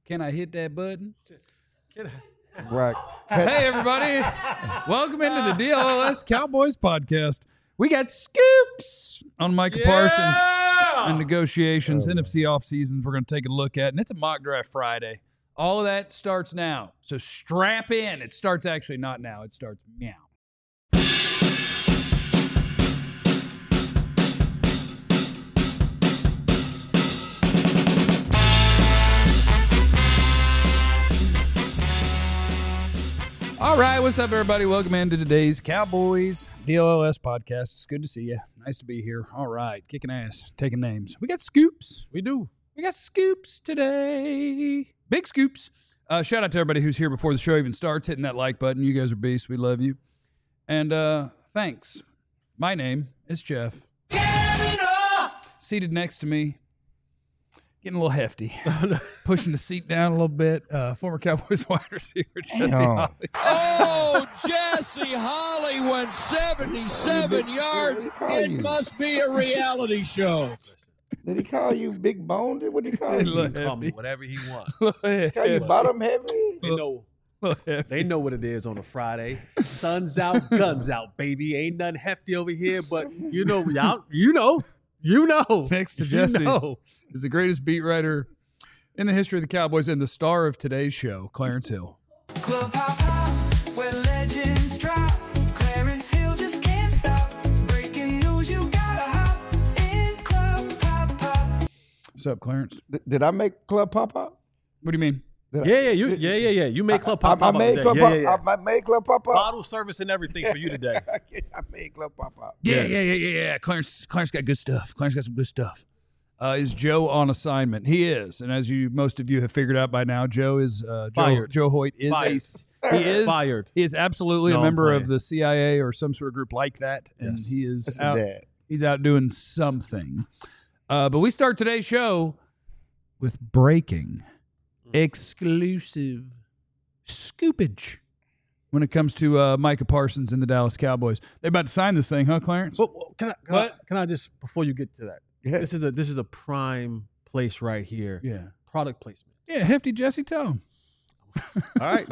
Can I hit that button? Right. Hey, everybody. Welcome into the DLLS Cowboys podcast. We got scoops on Micah Parsons and negotiations, NFC offseasons we're going to take a look at, and it's a mock draft Friday. All of that starts now, so strap in. It starts actually not now. It starts meow. All right, what's up, everybody? Welcome into today's Cowboys DLLS podcast. It's good to see you. Nice to be here. All right, kicking ass, taking names. We got scoops. We do. We got scoops today. Big scoops. Shout out to everybody who's here before the show even starts, hitting that like button. You guys are beasts. We love you. And thanks. My name is Jeff. Seated next to me, getting a little hefty, pushing the seat down a little bit. Former Cowboys wide receiver Jesse Holley. Oh, Jesse Holley went 77 yards. It must be a reality show. Did he call you big boned? What did he call you? He can call me whatever he wants. Call you bottom heavy? They know what it is on a Friday. Sun's out, guns out, baby. Ain't nothing hefty over here, but you know. Next to Jesse is the greatest beat writer in the history of the Cowboys and the star of today's show, Clarence Hill. Club hop hop, where legends drop. Clarence Hill just can't stop. Breaking news, you gotta hop in Club hop hop. What's up, Clarence? Did I make Club Pop Up? What do you mean? Yeah. You made Club Pop I Up. made Club Pop Up. I made Club Pop Up. Bottle service and everything for you today. I made Club Pop Up. Yeah. Clarence got good stuff. Clarence got some good stuff. Is Joe on assignment? He is, and as most of you have figured out by now, Joe is Fired. Joe Hoyt is Fired. He is absolutely a member of the CIA or some sort of group like that, and Yes. he is That's out. his dad. He's out doing something. But we start today's show with breaking, exclusive scoopage when it comes to Micah Parsons and the Dallas Cowboys. They're about to sign this thing, huh, Clarence? Well, can I just, before you get to that, Yeah. this is a prime place right here. Yeah. Product placement. Yeah, hefty Jesse, tell him. All right.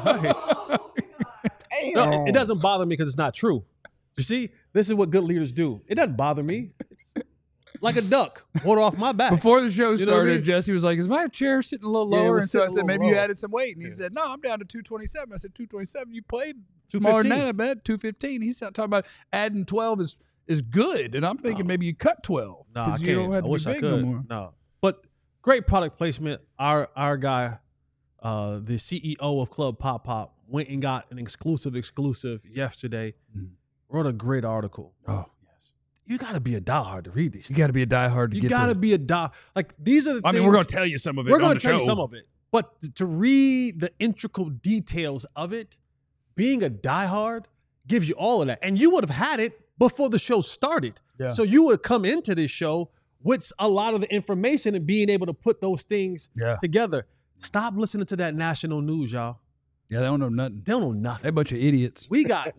No, it doesn't bother me because it's not true. You see, this is what good leaders do. It doesn't bother me. It's like a duck, water off my back. Before the show You know what I started, mean? Jesse was like, is my chair sitting a little Yeah, it lower? was And so I sitting a said, little maybe you low. added some weight. And he Yeah. said, no, I'm down to 227. I said, 227? You played smaller than 215. that, I bet. 215. He's talking about adding 12 is good. And I'm thinking maybe you cut 12. No, I 'cause can't. you don't have I to wish be I big could. no more. No, but great product placement. Our guy, the CEO of Club Pop Pop, went and got an exclusive yesterday. Wrote a great article. Oh, yes. You got to be a diehard to read these. You got to be a diehard to You get got to this. be a die. Like these are the I things. mean, we're going to tell you some of it We're on going the to tell show. you some of it, but to read the intricate details of it, being a diehard gives you all of that, and you would have had it before the show started. Yeah. So you would have come into this show with a lot of the information and being able to put those things Yeah. together. Stop listening to that national news, y'all. Yeah, they don't know nothing. They don't know They're a nothing. bunch of idiots. We got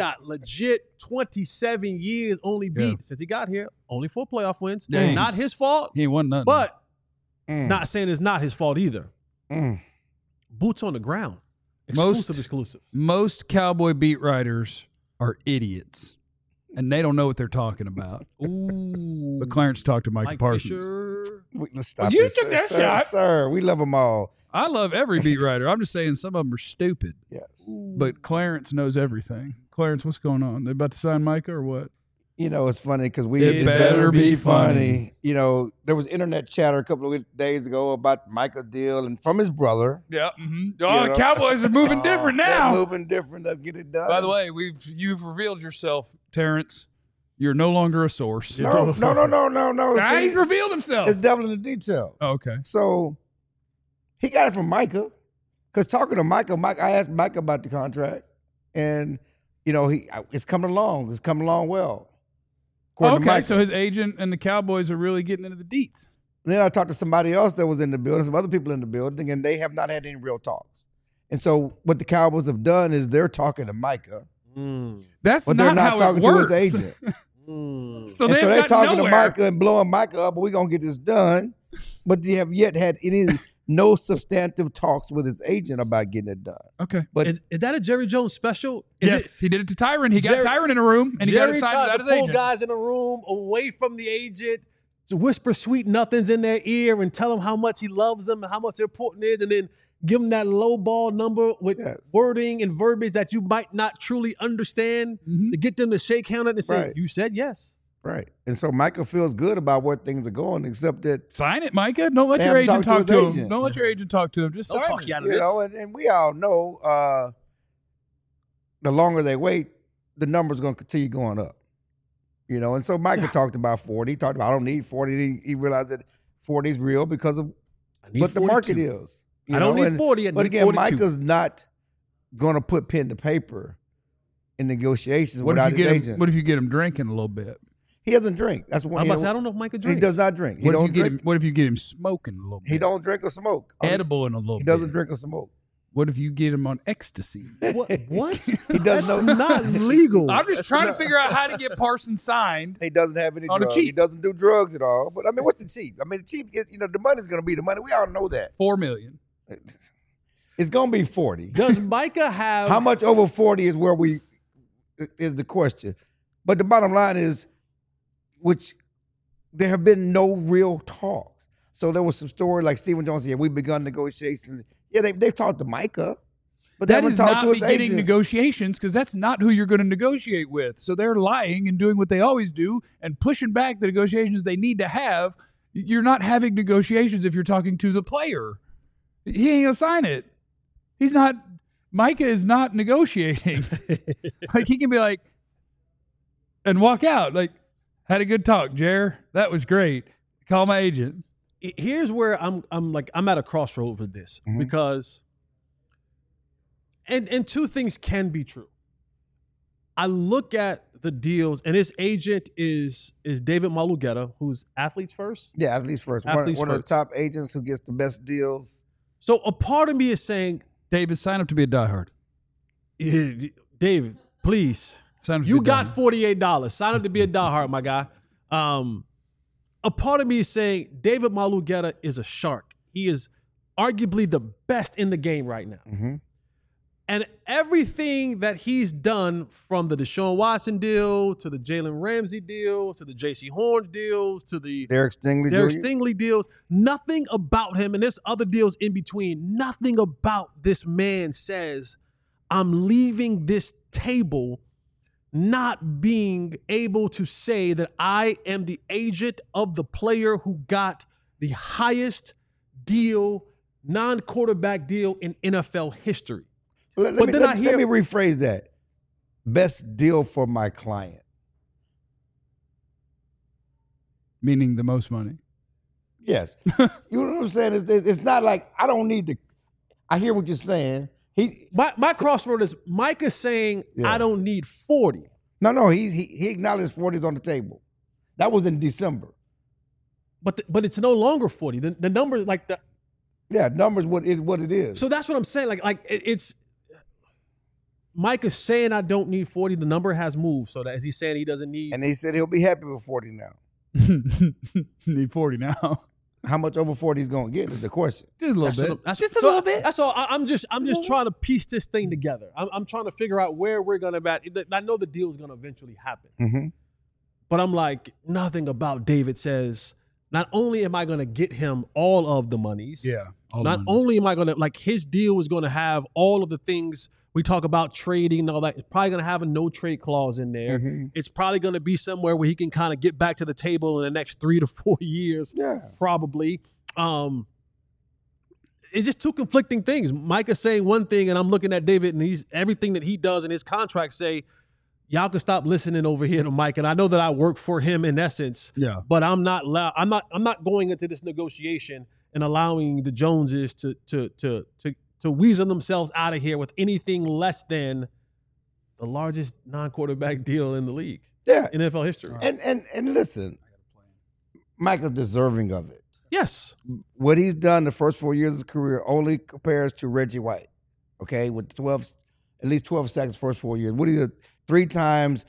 legit 27 years only beat Yeah. since he got here. Only 4 playoff wins. Dang. Not his fault, He ain't won nothing. but Mm. not saying it's not his fault either. Mm. Boots on the ground. Most- Exclusives. most Cowboy beat writers are idiots. And they don't know what they're talking about. Ooh. But Clarence talked to Micah Mike Parsons. Fisher. Let's stop you this, took that sir, shot. sir. We love them all. I love every beat writer. I'm just saying some of them are stupid. Yes. But Clarence knows everything. Clarence, what's going on? They about to sign Micah or what? You know, it's funny because It better be funny. You know, there was internet chatter a couple of days ago about Michael deal and from his brother. Yeah. Oh, You the know? Cowboys are moving different They're now. moving different. They'll get it done. By the way, you've revealed yourself, Terrence. You're no longer a source. no. Nah, See, he's revealed himself. it's devil in the detail. Oh, okay. So he got it from Micah. Because talking to Micah, I asked Micah about the contract, and you know it's coming along. It's coming along well. According to Okay, Micah. so his agent and the Cowboys are really getting into the deets. Then I talked to somebody else that was in the building, some other people in the building, and they have not had any real talks. And so what the Cowboys have done is they're talking to Micah, That's but not they're not how talking it to works. his agent. So And they've so they're got talking nowhere. to Micah and blowing Micah up, but we're gonna get this done. But they have yet had any no substantive talks with his agent about getting it done. Okay. But Is that a Jerry Jones special? Yes, he did it to Tyron. He got Tyron in a room, and he got Jerry assigned tries without to his pull agent. guys in a room away from the agent to whisper sweet nothings in their ear and tell them how much he loves them and how much important it is, and then give them that low ball number with wording and verbiage that you might not truly understand to get them to shake hands and say, you said yes. Right. And so Micah feels good about where things are going, except that sign it, Micah. Don't let your agent talk to him. Don't let your agent talk to him. Just don't sign talk it. you out of this. Know, and we all know the longer they wait, the number's going to continue going up. You know, and so Micah talked about 40. He talked about, I don't need 40. He realized that 40 is real because of what the market is. I don't need 40. But again, 42. Micah's not going to put pen to paper in negotiations without his agent. What if you get him drinking a little bit? He doesn't drink. That's one. I don't know if Micah drinks. He does not drink. What if you get him smoking a little bit? He don't drink or smoke. Edible in a little bit. He doesn't drink or smoke. What if you get him on ecstasy? What? He doesn't know. Not legal. I'm just trying to figure out how to get Parsons signed. He doesn't have any on drugs. The cheap. He doesn't do drugs at all. But I mean, what's the cheap? I mean, the cheap is, the money's going to be the money. We all know that. $4 million. It's going to be 40. Does Micah have how much over 40 is where we is the question. But the bottom line is, which there have been no real talks. So there was some story like Stephen Jones said, we've begun negotiations. Yeah, they've talked to Micah, but they haven't talked to his agent. That is not beginning negotiations, because that's not who you're going to negotiate with. So they're lying and doing what they always do and pushing back the negotiations they need to have. You're not having negotiations if you're talking to the player. He ain't gonna sign it. He's not. Micah is not negotiating. Like, he can be like, and walk out. Like, had a good talk, Jer. That was great. Call my agent. Here's where I'm at a crossroad with this, because and two things can be true. I look at the deals, and his agent is David Malugeta, who's Athletes First. Yeah, Athletes First. One of the top agents who gets the best deals. So a part of me is saying, David, sign up to be a diehard. David, please. You got $48. Sign up to be a diehard, my guy. A part of me is saying David Malugeta is a shark. He is arguably the best in the game right now. And everything that he's done, from the Deshaun Watson deal to the Jalen Ramsey deal to the J.C. Horn deals to the Derek Stingley deals, nothing about him, and there's other deals in between, nothing about this man says, I'm leaving this table not being able to say that I am the agent of the player who got the highest deal, non-quarterback deal in NFL history. Let me rephrase that. Best deal for my client. Meaning the most money. Yes. You know what I'm saying? It's not like I don't need the. I hear what you're saying. My crossroad is Mike is saying I don't need 40. No, he acknowledged 40 is on the table. That was in December. But it's no longer 40. The number is like the. Yeah, numbers what it is. So that's what I'm saying. Like it's. Mike is saying I don't need 40. The number has moved, so that as he's saying he doesn't need. And he said he'll be happy with 40 now. Need 40 now. How much over 40 he's going to get is the question. Just a little bit. Just a little bit. That's all. I'm just trying to piece this thing together. I'm trying to figure out where we're going to be. I know the deal is going to eventually happen. But I'm like, nothing about David says, not only am I going to get him all of the monies. Yeah. Not only am I going to, like, his deal is going to have all of the things we talk about, trading and all that. It's probably going to have a no trade clause in there. It's probably going to be somewhere where he can kind of get back to the table in the next 3 to 4 years. Yeah. Probably. It's just two conflicting things. Micah's saying one thing, and I'm looking at David, and everything that he does in his contract say, y'all can stop listening over here to Mike. And I know that I work for him in essence. Yeah. But I'm not going into this negotiation and allowing the Joneses to weasel themselves out of here with anything less than the largest non-quarterback deal in the league. Yeah. In NFL history. And listen, Michael's deserving of it. Yes. What he's done the first 4 years of his career only compares to Reggie White, okay, with at least 12 sacks first 4 years. What he did 3 times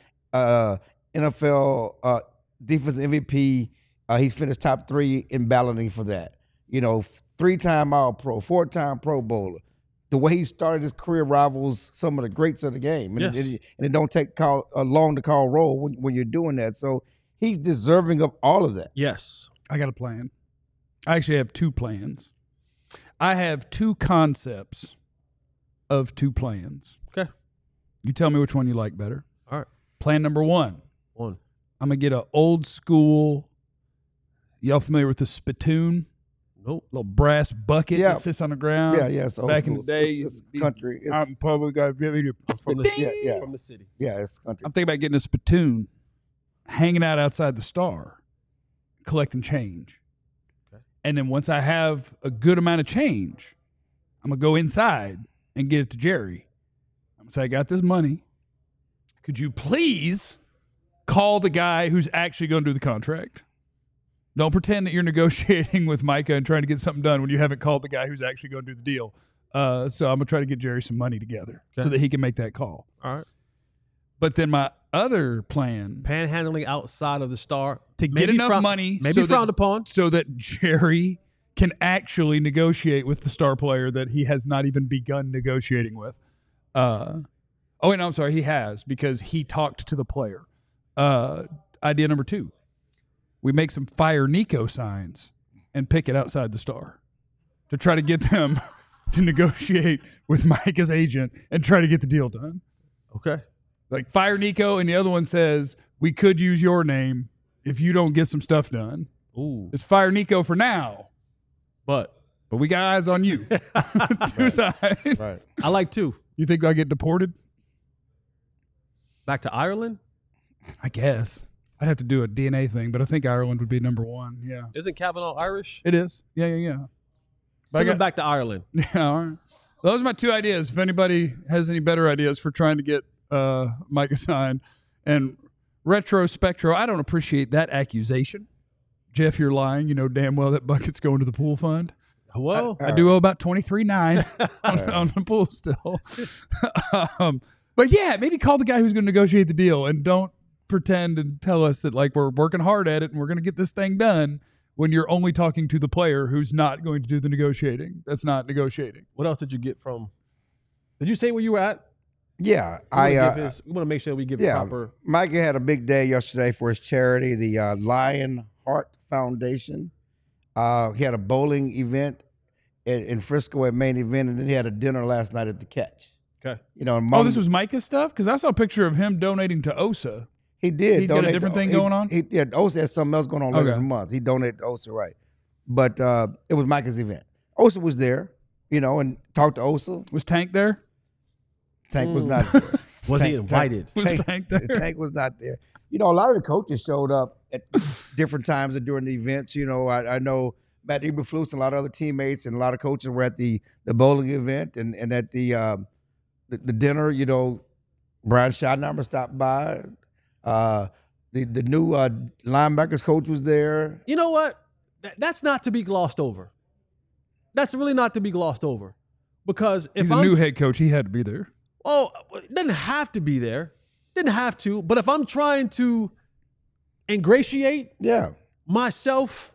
NFL defensive MVP. He's finished top 3 in balloting for that. 3-time All-Pro, 4-time Pro Bowler. The way he started his career rivals some of the greats of the game. And, Yes. and it don't take long to call roll when you're doing that. So he's deserving of all of that. Yes. I got a plan. I actually have 2 plans. I have 2 concepts of 2 plans. Okay. You tell me which one you like better. All right. Plan number 1. One. I'm going to get an old school, y'all familiar with the spittoon? Nope. Little brass bucket Yeah. that sits on the ground. Yeah, it's old Back in school. the day, It's country. It's, I'm probably got From the yeah. From the city. yeah, it's country. I'm thinking about getting a spittoon, hanging out outside the Star, collecting change. Okay. And then once I have a good amount of change, I'm going to go inside and get it to Jerry. I'm going to say, I got this money. Could you please call the guy who's actually going to do the contract? Don't pretend that you're negotiating with Micah and trying to get something done when you haven't called the guy who's actually going to do the deal. So I'm going to try to get Jerry some money together so that he can make that call. All right. But then my other plan Panhandling outside of the Star to get enough money maybe so frowned that, upon. so that Jerry can actually negotiate with the star player that he has not even begun negotiating with. Oh, wait, no, I'm sorry. He has, because he talked to the player. Idea number 2. We make some Fire Nico signs and pick it outside the Star to try to get them to negotiate with Micah's agent and try to get the deal done. Okay. Like Fire Nico, and the other one says, we could use your name if you don't get some stuff done. Ooh. It's Fire Nico for now, But but we got eyes on you. 2 sides. Right. I like 2. You think I get deported? Back to Ireland? I guess. I'd have to do a DNA thing, but I think Ireland would be number 1. Yeah. Isn't Kavanaugh Irish? It is. Yeah. Send him back to Ireland. Yeah, all right. Those are my 2 ideas. If anybody has any better ideas for trying to get Micah signed. And retrospectro, I don't appreciate that accusation. Jeff, you're lying. You know damn well that bucket's going to the pool fund. Well, I do owe about $23,900 on the pool still. But yeah, maybe call the guy who's going to negotiate the deal and don't pretend and tell us that like we're working hard at it and we're going to get this thing done when you're only talking to the player who's not going to do the negotiating. That's not negotiating. what else did you get from? Did you say where you were at? Yeah, We want to make sure we give proper. Micah had a big day yesterday for his charity, the Lion Heart Foundation. He had a bowling event in Frisco at Main Event, and then he had a dinner last night at the Catch. Okay. You know, and Oh, this was Micah's stuff? Because I saw a picture of him donating to OSA. he did. He's got a donate different to- thing he- going on? Yeah, OSA has something else going on later Okay. in the month. He donated to OSA, right? But it was Micah's event. OSA was there, you know, and talked to OSA. Was Tank there? Tank was not there. Was he Tank- invited? Was Tank there? Tank was not there. You know, a lot of the coaches showed up at different times during the events. You know, I know Matt Eberflus and a lot of other teammates and a lot of coaches were at the bowling event and at the dinner. You know, Brian Schottenheimer stopped by. The new linebackers coach was there. You know what? That's not to be glossed over. That's really not to be glossed over, because if He's I'm a new head coach. He had to be there. Oh, it didn't have to be there. Didn't have to. But if I'm trying to ingratiate Yeah. myself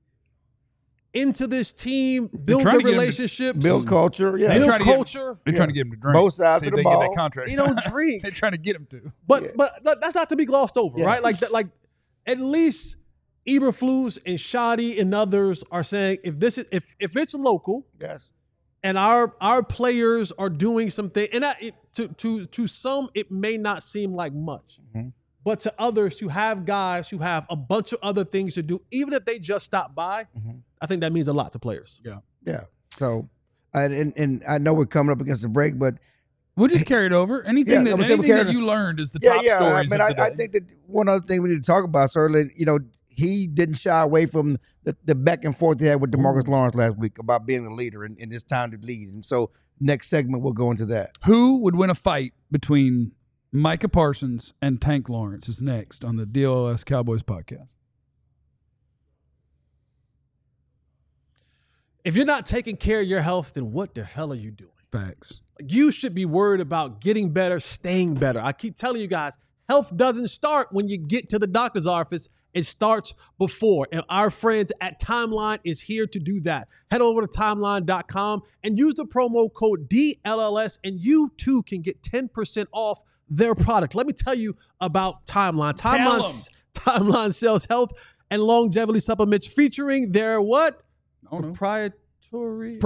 into this team, build trying the to get him to relationships, Build culture. Yeah. build trying to get him- culture. They're trying to get him to drink. Both sides See of if the they get ball. that contract. He don't drink. They're trying to get him to. But that's not to be glossed over, Yeah. right? Like at least Eberflus and Shoddy and others are saying if it's local Yes. and our players are doing something, and to some it may not seem like much, Mhm. but to others who have guys who have a bunch of other things to do, even if they just stop by, Mhm. I think that means a lot to players. Yeah. So, and I know we're coming up against the break, but We'll just carry it over. Anything Yeah, that, I'm saying we anything carry that it- you learned is the top stories I of mean, the day. I think that one other thing we need to talk about, certainly, you know, he didn't shy away from the back and forth he had with DeMarcus Lawrence last week about being a leader and it's time to lead. And so, next segment we'll go into that. Who would win a fight between Micah Parsons and Tank Lawrence is next on the DLS Cowboys podcast. If you're not taking care of your health, then what the hell are you doing? Facts. You should be worried about getting better, staying better. I keep telling you guys, health doesn't start when you get to the doctor's office It starts before. And our friends at Timeline is here to do that. Head over to timeline.com and use the promo code DLLS, and you too can get 10% off their product. Let me tell you about Timeline. Timeline sells health and longevity supplements featuring their what? Proprietary.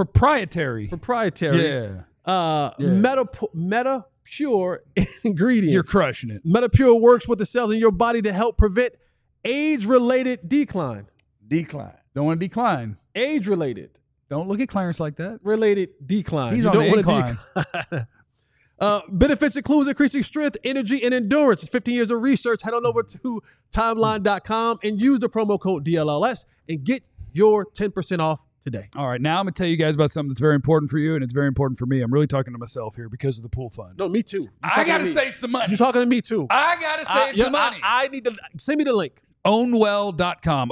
Yeah. Meta Pure ingredients. You're crushing it. MetaPure works with the cells in your body to help prevent age-related decline. Don't want to decline. Age-related. Don't look at Clarence like that. Related decline. He's you on don't the want incline. to decline. Benefits includes increasing strength, energy, and endurance. It's 15 years of research. Head on over to timeline.com and use the promo code DLLS and get your 10% off today. All right, now I'm going to tell you guys about something that's very important for you, and it's very important for me. I'm really talking to myself here because of the pool fund. No, me too. I got to save some money. You're talking to me too. I got to save some money. I need to send me the link. Ownwell.com,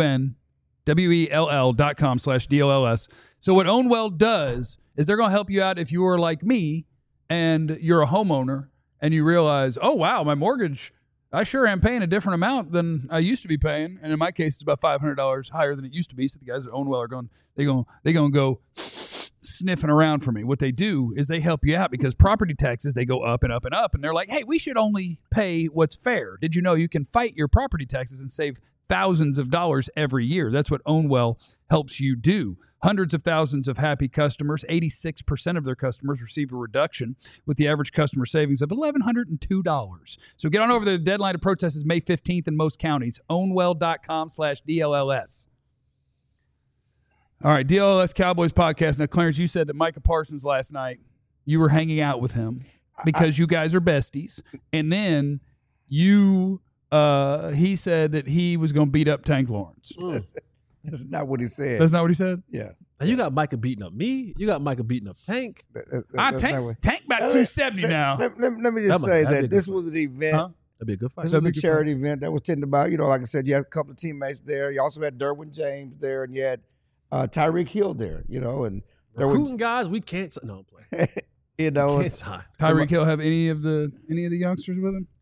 OWNWELL.com/DLLS. So what Ownwell does is they're going to help you out if you are like me and you're a homeowner and you realize, oh, wow, my mortgage, I sure am paying a different amount than I used to be paying. And in my case, it's about $500 higher than it used to be. So the guys at Ownwell are going to go sniffing around for me. What they do is they help you out because property taxes, they go up and up and up. And they're like, hey, we should only pay what's fair. Did you know you can fight your property taxes and save thousands of dollars every year? That's what Ownwell helps you do. Hundreds of thousands of happy customers. 86% of their customers receive a reduction with the average customer savings of $1,102. So get on over. The deadline to protest is May 15th in most counties. Ownwell.com/DLLS. All right, DLLS Cowboys podcast. Now, Clarence, you said that Micah Parsons last night, you were hanging out with him because you guys are besties. And then he said that he was going to beat up Tank Lawrence. That's not what he said. That's not what he said? Yeah. Now you got Micah beating up me. You got Micah beating up Tank. Tank about 270 now. Let me just say that this was an event. Huh? That'd be a good fight. This was a charity event that was tended by, like I said, you had a couple of teammates there. You also had Derwin James there, and you had Tyreek Hill there, and there recruiting guys we can't. No, I'm playing. Tyreek Hill have any of the youngsters with him?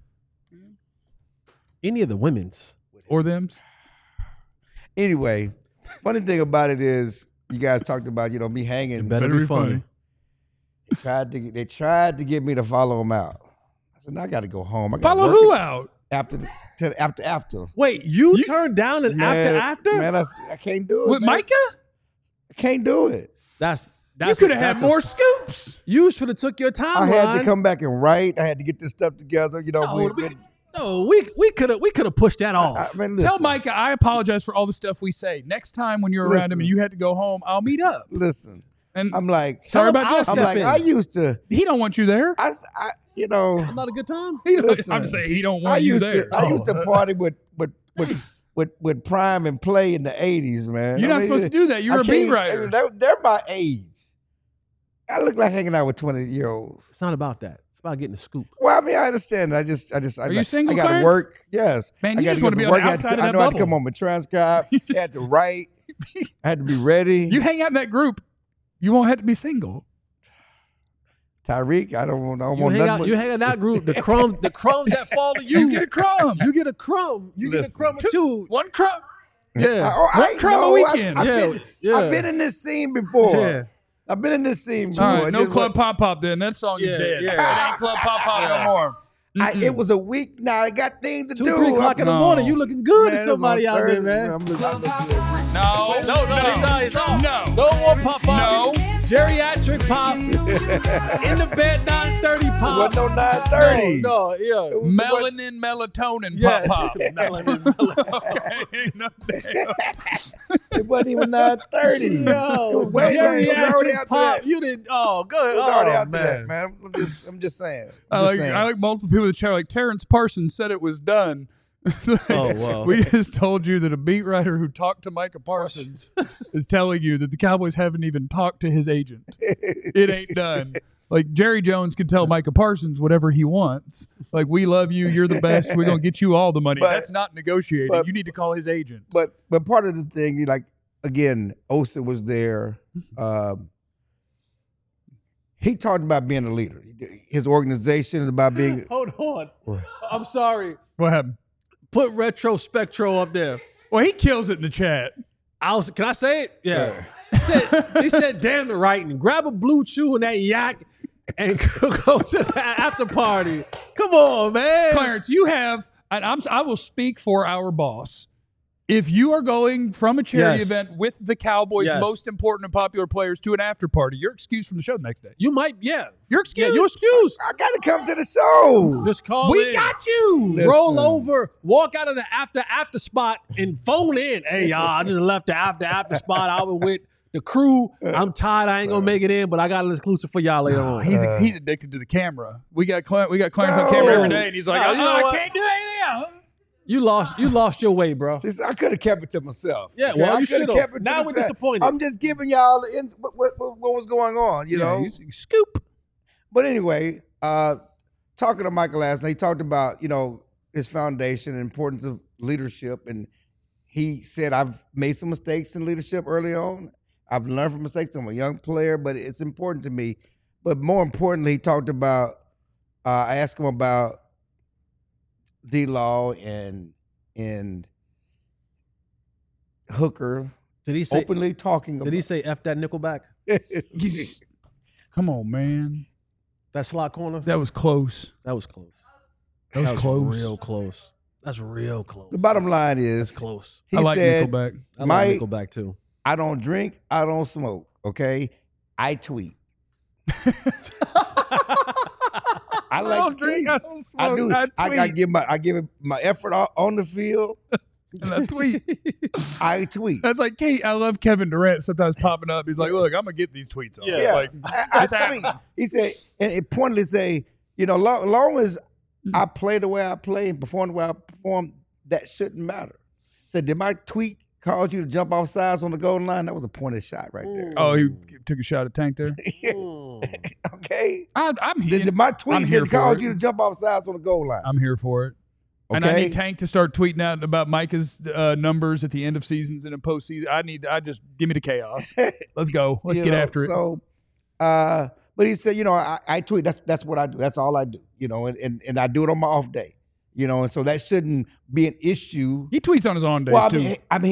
Any of the women's or them's? Anyway, funny thing about it is you guys talked about, me hanging. It better be funny. They tried to get me to follow him out. I said, no, I got to go home. I follow who out? After. Wait, you turned down an after? Man, I can't do it. With Micah? I can't do it. That's you could have had more scoops. You should have took your time. I had to come back and write. I had to get this stuff together. We could have pushed that off. Tell Micah I apologize for all the stuff we say. Next time when you're around him and you had to go home, I'll meet up. Listen, and I'm like, sorry about Justin. I'm like, I used to. He don't want you there. Not a good time. Listen, I'm saying he don't want you there. I used to party with Prime and Play in the 80s, man. You're not supposed to do that. You're a beat writer. They're my age. I look like hanging out with 20-year-olds. It's not about that. It's about getting the scoop. Well, I understand. Are you single, I got to work. Yes. Man, you just want to be on the outside of that bubble. I had to come on my transcribe. I had to write. I had to be ready. You hang out in that group, you won't have to be single. Tyreek, I don't want you hang out in that group. The crumbs that fall to you. You get a crumb. You get a crumb. You get a crumb or two. One crumb. Yeah. One crumb a weekend. I've been in this scene before. Yeah. I've been in this scene before. All right, no Club Pop Pop then. That song is dead. Yeah. It ain't Club Pop Pop no more. It was a week now. I got things to 2, 3 o'clock in the morning. You looking good to somebody out there, man. No. He's off. No more pop pop. No. Geriatric pop. In the bed, 9:30 pop. It wasn't no 9:30. No, yeah. Melanin, melatonin, pop pop. Melanin, It wasn't even 9:30. No. It was already after pop. that. You did. Oh, good. It was already after that, man. I'm just saying. I like multiple people in the chat. Like Terrence Parsons said it was done. Oh, wow. We just told you that a beat writer who talked to Micah Parsons is telling you that the Cowboys haven't even talked to his agent. It ain't done. Like Jerry Jones can tell Micah Parsons whatever he wants. Like, we love you. You're the best. We're going to get you all the money. That's not negotiating. You need to call his agent. But part of the thing, like, again, Osa was there. He talked about being a leader. His organization is about being. Hold on. I'm sorry. What happened? Put Retro Spectro up there. Well, he kills it in the chat. Can I say it? Yeah. He said, damn the writing. Grab a blue chew and that yak and go to the after party. Come on, man. Clarence, you have, and I will speak for our boss. If you are going from a charity event with the Cowboys' most important and popular players to an after party, you're excused from the show the next day. You might, yeah. You're excused. Yeah, you're excused. I got to come to the show. Just call We in. got you. Listen. Roll over, walk out of the after spot and phone in. Hey, y'all, I just left the after spot. I was with the crew. I'm tired. I ain't going to make it in, but I got an exclusive for y'all later on. He's addicted to the camera. We got Clarence on camera every day, and he's like, I can't do anything else. You lost your way, bro. See, I could have kept it to myself. Yeah, well, I you coulda should kept have. it to Now we're myself. disappointed. I'm just giving y'all what was going on, you know. Scoop. But anyway, talking to Michael last night, he talked about, his foundation and importance of leadership. And he said, I've made some mistakes in leadership early on. I've learned from mistakes. I'm a young player, but it's important to me. But more importantly, he talked about, I asked him about D-Law and Hooker. Did he say openly talking about. Did he say F that Nickelback? Come on, man. That slot corner? That was close. That was close. That was close. Real close. That's real close. The bottom line is, That's close. he I like said, Nickelback. I Mike, like Nickelback too. I don't drink, I don't smoke, okay? I tweet. I like don't to tweet. drink, I don't smoke, I do. I tweet. I give it my effort on the field. And I tweet. I tweet. That's like Kate. I love Kevin Durant sometimes popping up. He's like, look, I'm going to get these tweets on. Yeah, Like, I it's tweet. happening. He said, and it pointedly say, long as I play the way I play and perform the way I perform, that shouldn't matter. Said, did my tweet cause you to jump off sides on the goal line? That was a pointed shot right there. Oh, he took a shot at Tank there. Okay. I'm here. Did my tweet I'm here did for cause it. you to jump off sides on the goal line? I'm here for it. And I need Tank to start tweeting out about Micah's numbers at the end of seasons and in postseason. I just give me the chaos. Let's go. Let's get after it. So, but he said, I tweet. That's what I do. That's all I do. And I do it on my off day. And so that shouldn't be an issue. He tweets on his on days Well, too.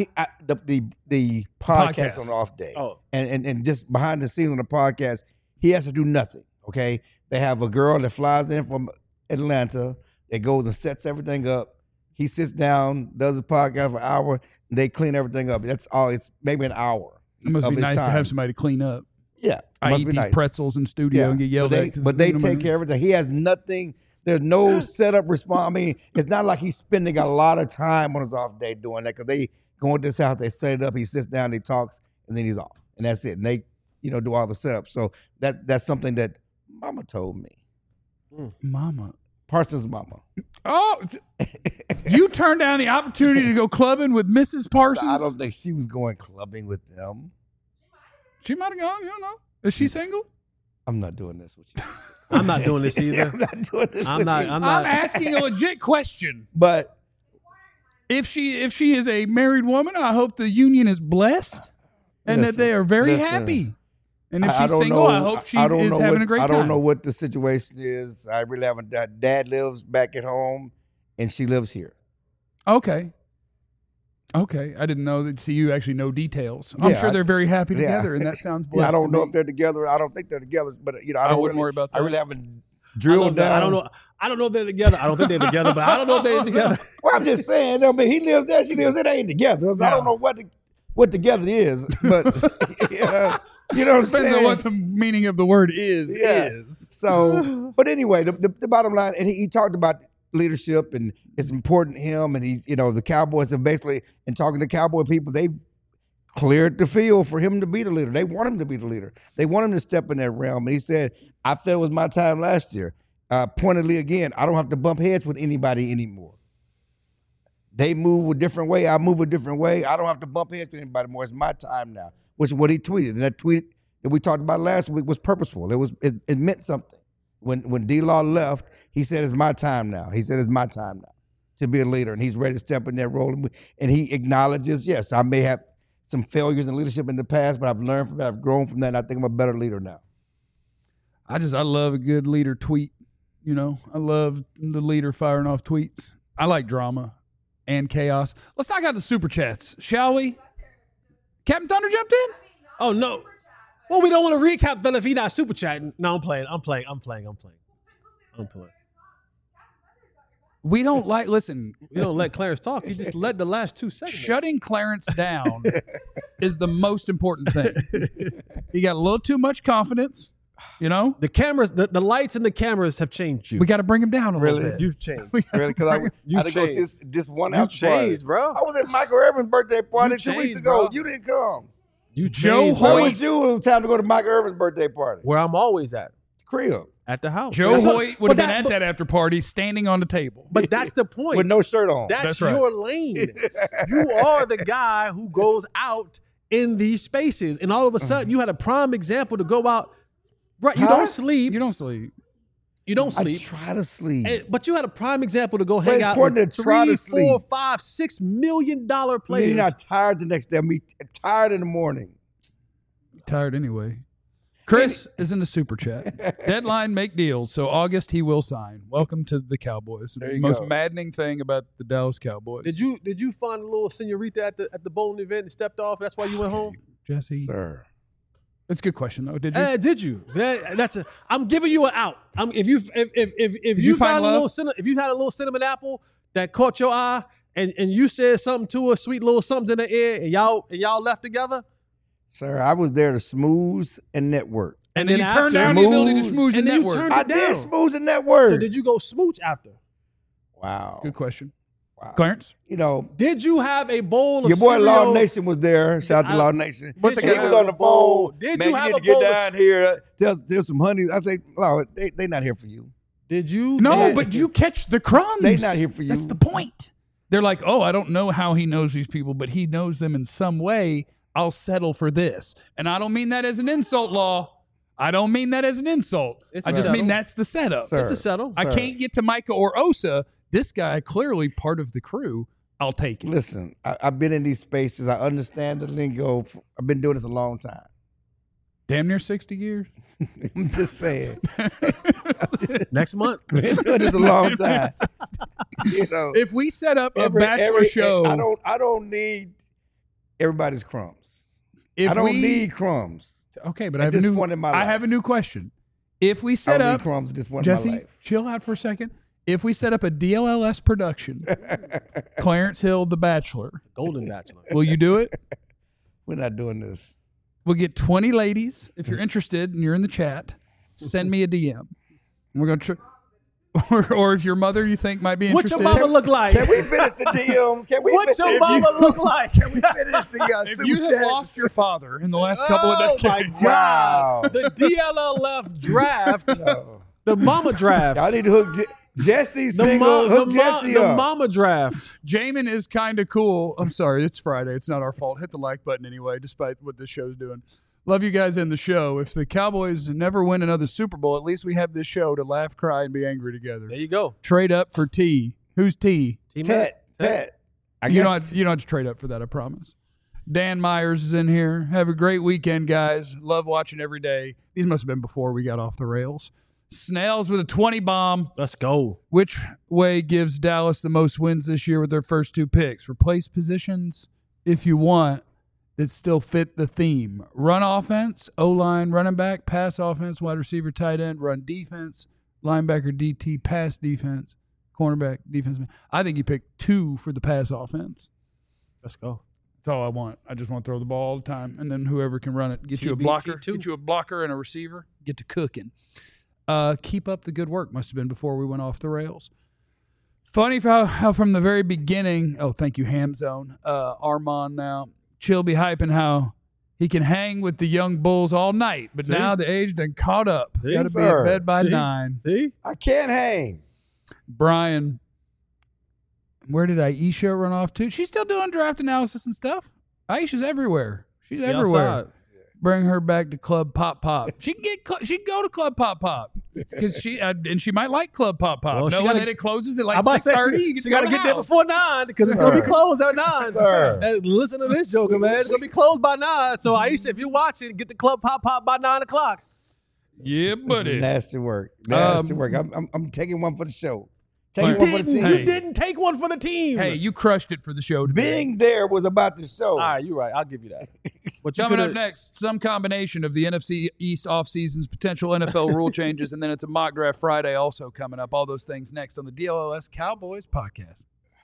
The podcast on the off day. Oh. And just behind the scenes on the podcast, he has to do nothing. Okay. They have a girl that flies in from Atlanta that goes and sets everything up. He sits down, does the podcast for an hour, and they clean everything up. That's all. It's maybe an hour. It must of be his nice to time. have somebody to clean up. Yeah. I must eat be these nice. pretzels in studio and get yelled at. But they take care of everything. He has nothing. There's no setup response. I mean, it's not like he's spending a lot of time on his off day doing that because they go into this house, they set it up, he sits down, he talks, and then he's off. And that's it. And they, do all the setup. So that's something that Mama told me. Mama. Parsons' mama. Oh, you turned down the opportunity to go clubbing with Mrs. Parsons? I don't think she was going clubbing with them. She might have gone. You don't know. Is she single? I'm not doing this with you. I'm not doing this either. I'm not doing this I'm with not. you. I'm I'm not. asking a legit question. But If she is a married woman, I hope the union is blessed and that they are very happy. And if she's don't single, know. I hope she I don't is know having what- a great I time. don't know what the situation is. I really haven't. Dad lives back at home, and she lives here. Okay. Okay. I didn't know that. See, you actually know details. I'm Yeah, sure they're very happy yeah. together, and that sounds blessed. Yeah, I don't to know me. if they're together. I don't think they're together, but I wouldn't really, worry about I that. really haven't drilled down. I don't know. I don't know if they're together. I don't think they're together, but I don't know if they're together. Well, I'm just saying. I mean, he lives there. She lives there. They ain't together. So I don't know what together is, but you know what I'm Depends saying. on what the meaning of the word is. Yeah. Is. So, but anyway, the bottom line, and he talked about leadership, and it's important to him, and he's, the Cowboys have basically, in talking to Cowboy people, they've cleared the field for him to be the leader. They want him to be the leader. They want him to step in that realm. And he said, I felt it was my time last year. Pointedly again, I don't have to bump heads with anybody anymore. They move a different way. I move a different way. I don't have to bump heads with anybody more. It's my time now, which is what he tweeted. And that tweet that we talked about last week was purposeful. It meant something. When D-Law left, he said, it's my time now. He said, it's my time now to be a leader. And he's ready to step in that role. And he acknowledges, yes, I may have some failures in leadership in the past, but I've learned from that. I've grown from that. And I think I'm a better leader now. I love a good leader tweet. I love the leader firing off tweets. I like drama. and chaos. Let's knock out the super chats, shall we? Captain Thunder jumped in? Oh, no. Well, we don't want to recap then if he's not super chatting. No, I'm playing. We don't like, listen, We don't let Clarence talk. He just led the last 2 seconds. shutting Clarence down is the most important thing. He got a little too much confidence, you know? The cameras, the lights and the cameras have changed you. We got to bring him down a little Really? bit. You've changed. Really? Because I You've had to go to changed. this one You've after party. changed, bro. I was at Michael Irvin's birthday party 2 weeks changed, ago. bro. You didn't come. You Joe changed, Where bro. Hoyt- was you when it was time to go to Michael Irvin's birthday party? Where I'm always at. Crib. At the house. Joe That's what- Hoyt would have but been at that after party standing on the table. But that's the point. With no shirt on. That's right. your lane. You are the guy who goes out in these spaces. And all of a sudden, you had a prime example to go out. Right. You Huh? don't sleep. You don't sleep. You don't I sleep. try to sleep. But you had a prime example to go But hang it's out important with to try to 3, 4, sleep. 5, $6 million Then players. you're not tired the next day. I'm tired in the morning. Tired anyway. Chris is in the super chat. Deadline make deals, so August he will sign. Welcome to the Cowboys. There The you most go. maddening thing about the Dallas Cowboys. Did you find a little senorita at the bowling event and stepped off? That's why you went home. Jesse? Sir. That's a good question though. Did you? Did you? I'm giving you an out. If you you find found a love? if you had a little cinnamon apple that caught your eye and you said something to her, sweet little something in the air, and y'all left together, Sir, I was there to smooth and network. and then he then turned after- down the ability to Smooth. schmooze And in then you network. turned- I it did down. smooth and network. so did you go smooch after? Wow. Good question. Wow. Clarence? You know, Did you have a bowl of your boy cereal? Law Nation was there. Shout out to Law Nation. What's And a he guy- was on the phone. Did Man, you you have need a to get bowl of- down here. Tell some honey. I say, Law, they not here for you. Did you? No, Did- but you catch the crumbs. They not here for you. That's the point. They're like, oh, I don't know how he knows these people, but he knows them in some way. I'll settle for this. And I don't mean that as an insult, Law. I don't mean that as an insult. It's I a just settle. mean that's the setup. Sir, It's a settle. I sir, can't get to Micah or Osa. This guy, clearly part of the crew. I'll take it. Listen, I've been in these spaces. I understand the lingo. I've been doing this a long time. Damn near 60 years. I'm just saying. Next month. Been doing this a long time. You know, If we set up a bachelor show, I don't need everybody's crumbs. if I don't we, need crumbs. Okay, but at I have a this new. point in my I life. have a new question. If we I set don't need up, crumbs at this point in my Jesse, life. chill out for a second. If we set up a DLLS production, Clarence Hill, The Bachelor, Golden Bachelor. will you do it? We're not doing this. We'll get 20 ladies. If you're interested and you're in the chat, send me a DM. And we're going to or if your mother you think might be What's interested. your mama look like? Can we finish the DMs? Can we What's finish your mama look like? Can we finish the if super you have chat? lost your father in the last couple of Oh my decades, Wow. God. The DLLF draft, No. the mama draft. Y'all need to hook Jesse The, single. Hook Jesse the up. mama draft. Jamin is kind of cool. I'm sorry, it's Friday. It's not our fault. Hit the like button anyway, despite what this show's doing. Love you guys in the show. If the Cowboys never win another Super Bowl, at least we have this show to laugh, cry, and be angry together. There you go. Trade up for T. Who's T? Ted. I You guess don't have to trade up for that, I promise. Dan Myers is in here. Have a great weekend, guys. Love watching every day. These must have been before we got off the rails. Snails with a 20 bomb. Let's go. Which way gives Dallas the most wins this year with their first 2 picks? Replace positions if you want that still fit the theme. Run offense, O-line, running back, pass offense, wide receiver, tight end, run defense, linebacker, DT, pass defense, cornerback, defense. I think you picked 2 for the pass offense. Let's go. That's all I want. I just want to throw the ball all the time, and then whoever can run it. Get you a blocker. TBT2. Get you a blocker and a receiver. Get to cooking. Keep up the good work. Must have been before we went off the rails. Funny how from the very beginning. Oh, thank you, Ham Zone. Armand now. Chill be hyping how he can hang with the young bulls all night, but See? now the age done caught up. See, Got to be sir. in bed by See? 9. See? I can't hang. Brian, where did Aisha run off to? She's still doing draft analysis and stuff. Aisha's everywhere. She's everywhere. Outside. Bring her back to Club Pop Pop. She can go to Club Pop Pop because she might like Club Pop Pop. Well, she Knowing gotta- that it closes at I'm like about to say 6:30. she got to get there before 9 because it's going to be Sir. closed at 9. Sir. And listen to this, Joker, man. It's going to be closed by 9. So, Aisha, if you're watching, get the Club Pop Pop by 9 o'clock. Yeah, This buddy. is nasty work. Nasty work. I'm taking one for the show. Take one for the team. You didn't take one for the team. Hey, you crushed it for the show today. Being there was about the show. All right, you're right. I'll give you that. But Coming up next, some combination of the NFC East offseason's potential NFL rule changes, and then it's a mock draft Friday also coming up. All those things next on the DLOS Cowboys podcast.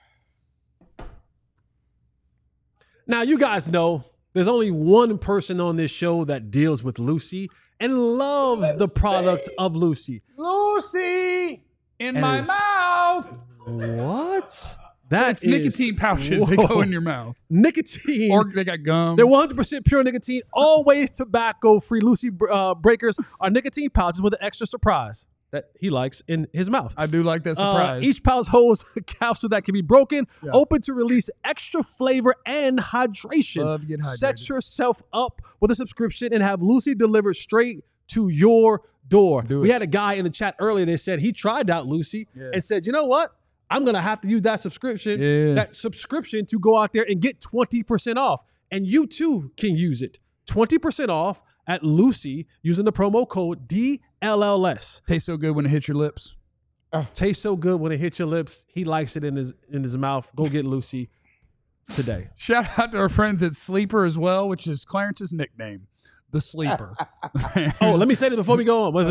Now, you guys know there's only one person on this show that deals with Lucy and loves the product of Lucy. Lucy in my mouth. What? That's nicotine pouches. They go in your mouth. Nicotine. Or they got gum. They're 100% pure nicotine, always tobacco-free. Lucy Breakers are nicotine pouches with an extra surprise that he likes in his mouth. I do like that surprise. Each pouch holds a capsule that can be broken, open to release extra flavor and hydration. Love to get hydrated. Set yourself up with a subscription and have Lucy delivered straight to your door. We had a guy in the chat earlier that said he tried out Lucy and said, you know what? I'm going to have to use that subscription to go out there and get 20% off. And you too can use it. 20% off at Lucy using the promo code DLLS. Tastes so good when it hits your lips. Tastes so good when it hits your lips. He likes it in his mouth. Go get Lucy today. Shout out to our friends at Sleeper as well, which is Clarence's nickname, the Sleeper. Let me say this before we go on.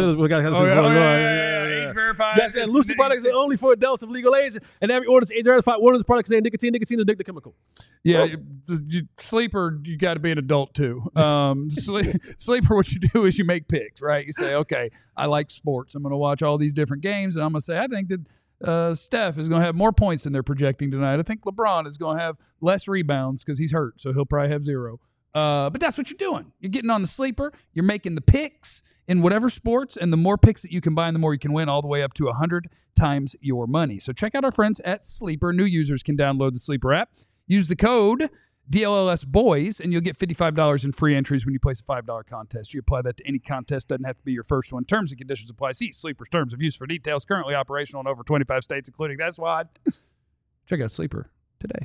Age verified. Yes, and Lucy products are only for adults of legal age, and every order is age verified. One of the products contains nicotine. Nicotine is addictive chemical. Yeah, Sleeper, you got to be an adult too. Sleeper, what you do is you make picks, right? You say, okay, I like sports. I'm going to watch all these different games, and I'm going to say, I think that Steph is going to have more points than they're projecting tonight. I think LeBron is going to have less rebounds because he's hurt, so he'll probably have 0. But that's what you're doing. You're getting on the Sleeper. You're making the picks in whatever sports, and the more picks that you combine, the more you can win, all the way up to 100 times your money. So check out our friends at Sleeper. New users can download the Sleeper app. Use the code DLLSBOYS, and you'll get $55 in free entries when you place a $5 contest. You apply that to any contest. Doesn't have to be your first one. Terms and conditions apply. See Sleeper's terms of use for details. Currently operational in over 25 states, including that's why. Check out Sleeper today.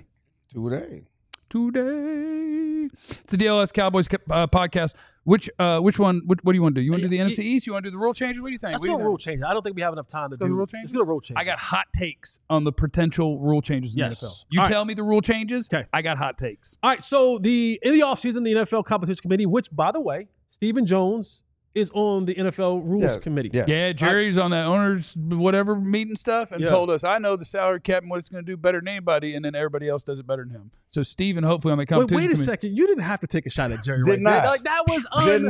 It's the DLS Cowboys podcast. Which one? What do you want to do? You want to do the NFC East? You want to do the rule changes? What do you think? Let's go rule changes. I don't think we have enough time to do the rule changes. Let's go rule changes. I got hot takes on the potential rule changes in the NFL. You tell me the rule changes. Okay. I got hot takes. All right. So in the offseason, the NFL Competition Committee, which, by the way, Stephen Jones is on the NFL Rules Committee. Yeah, Jerry's on that owners whatever meeting stuff and told us, I know the salary cap and what it's going to do better than anybody, and then everybody else does it better than him. So Stephen, hopefully on the competition wait a second. You didn't have to take a shot at Jerry right there. Like, that was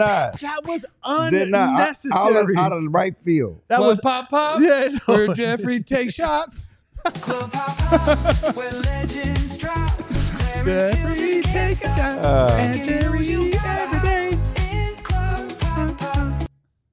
unnecessary. Out of the right field. That was pop. Yeah, no. Where Jeffrey takes shots. Club hop, where legends drop. Jeffrey take a shot. And Jerry every day. In Club Pop.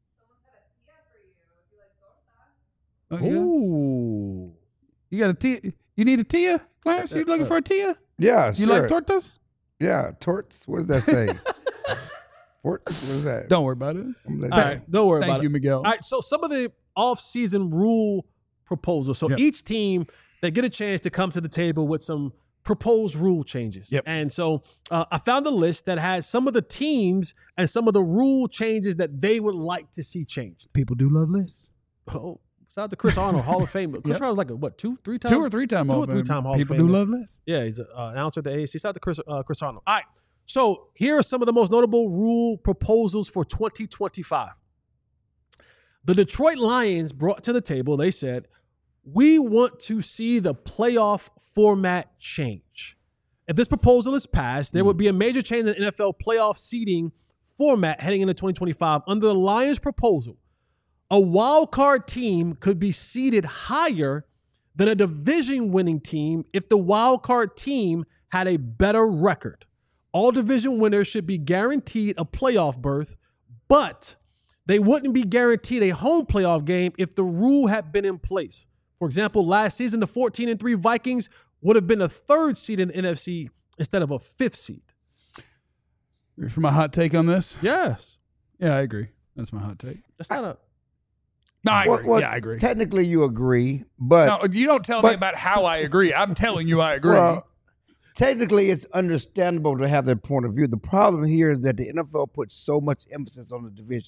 Oh, yeah. Ooh. You got a Tia? You need a Tia, Clarence? You looking for a Tia? Yeah, You sure. like tortas? Yeah, torts. What does that say? What is that? Don't worry about it. I'm like, All right, don't worry about Thank you, it. Miguel. All right, so some of the off-season rule proposals. So each team, they get a chance to come to the table with some proposed rule changes. Yep. And so I found a list that has some of the teams and some of the rule changes that they would like to see changed. People do love lists. Oh, shout out to Chris Arnold, Hall of Fame. Chris Arnold's like a, what, 2-3 time? 2 or 3 time Hall of Fame. Hall of People Fame. do love lists. Yeah, he's an announcer at the AAC. Shout out to Chris Arnold. All right. So here are some of the most notable rule proposals for 2025. The Detroit Lions brought to the table, they said, we want to see the playoff format change. If this proposal is passed, there would be a major change in the NFL playoff seeding format heading into 2025. Under the Lions proposal, a wild card team could be seeded higher than a division-winning team if the wild card team had a better record. All division winners should be guaranteed a playoff berth, but they wouldn't be guaranteed a home playoff game if the rule had been in place. For example, last season, the 14-3 Vikings would have been a 3rd seed in the NFC instead of a 5th seed. For my hot take on this? Yes. Yeah, I agree. That's my hot take. That's not a... No, I agree. Well, I agree. Technically, you agree, but No, you don't tell me about how I agree. I'm telling you I agree. well, technically, it's understandable to have that point of view. The problem here is that the NFL puts so much emphasis on the division.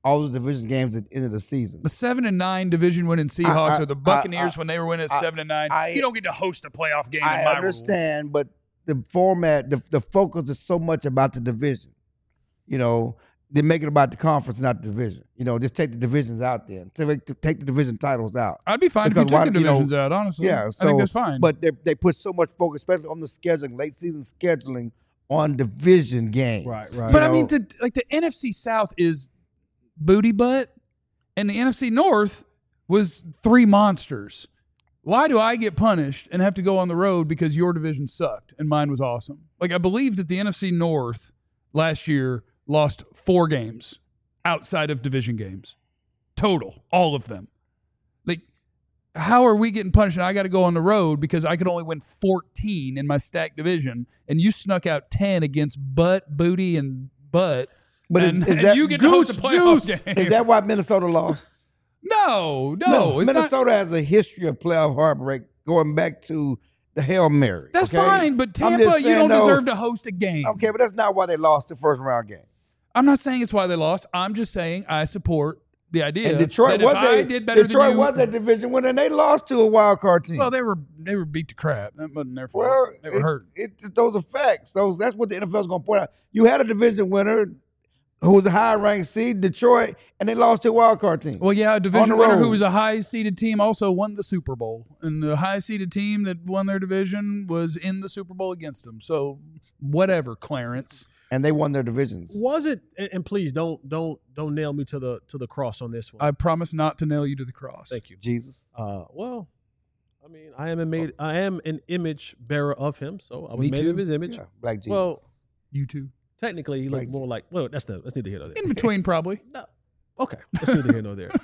all the division games at the end of the season. The 7-9 division winning Seahawks or the Buccaneers when they were winning 7-9. You don't get to host a playoff game. I in my understand, rules. but the format, the focus is so much about the division. You know, they make it about the conference, not the division. You know, just take the divisions out there. Take the division titles out. I'd be fine if you took the divisions out, honestly. Yeah, so, I think that's fine. But they put so much focus, especially on the scheduling, late season scheduling, on division games. Right. But I mean, the NFC South is booty butt, and the NFC North was 3 monsters. Why do I get punished and have to go on the road because your division sucked and mine was awesome? Like, I believe that the NFC North last year lost 4 games outside of division games. Total. All of them. Like, how are we getting punished? And I got to go on the road because I could only win 14 in my stacked division, and you snuck out 10 against butt, booty, and butt. But and is that you get to host a playoff game. Is that why Minnesota lost? No. It's Minnesota not, has a history of playoff heartbreak going back to the Hail Mary. That's okay? fine, but Tampa, you don't deserve to host a game. Okay, but that's not why they lost the first round game. I'm not saying it's why they lost. I'm just saying I support the idea. And Detroit that was a division winner, and they lost to a wild card team. Well, they were beat to crap. That wasn't their fault. They were hurt. Those are facts. That's what the NFL is going to point out. You had a division winner who was a high-ranked seed, Detroit, and they lost to a wild card team. Well, yeah, a division winner who was a high-seeded team also won the Super Bowl, and the high-seeded team that won their division was in the Super Bowl against them. So, whatever, Clarence. And they won their divisions. Was it? And please don't nail me to the cross on this one. I promise not to nail you to the cross. Thank you, Jesus. Well, I mean, I am an image bearer of him, so I was made in his image. Yeah, Black Jesus. Well, you too. Technically, he looked more like. Well, that's neither here nor there. In between, probably. No. Okay, that's neither here nor there.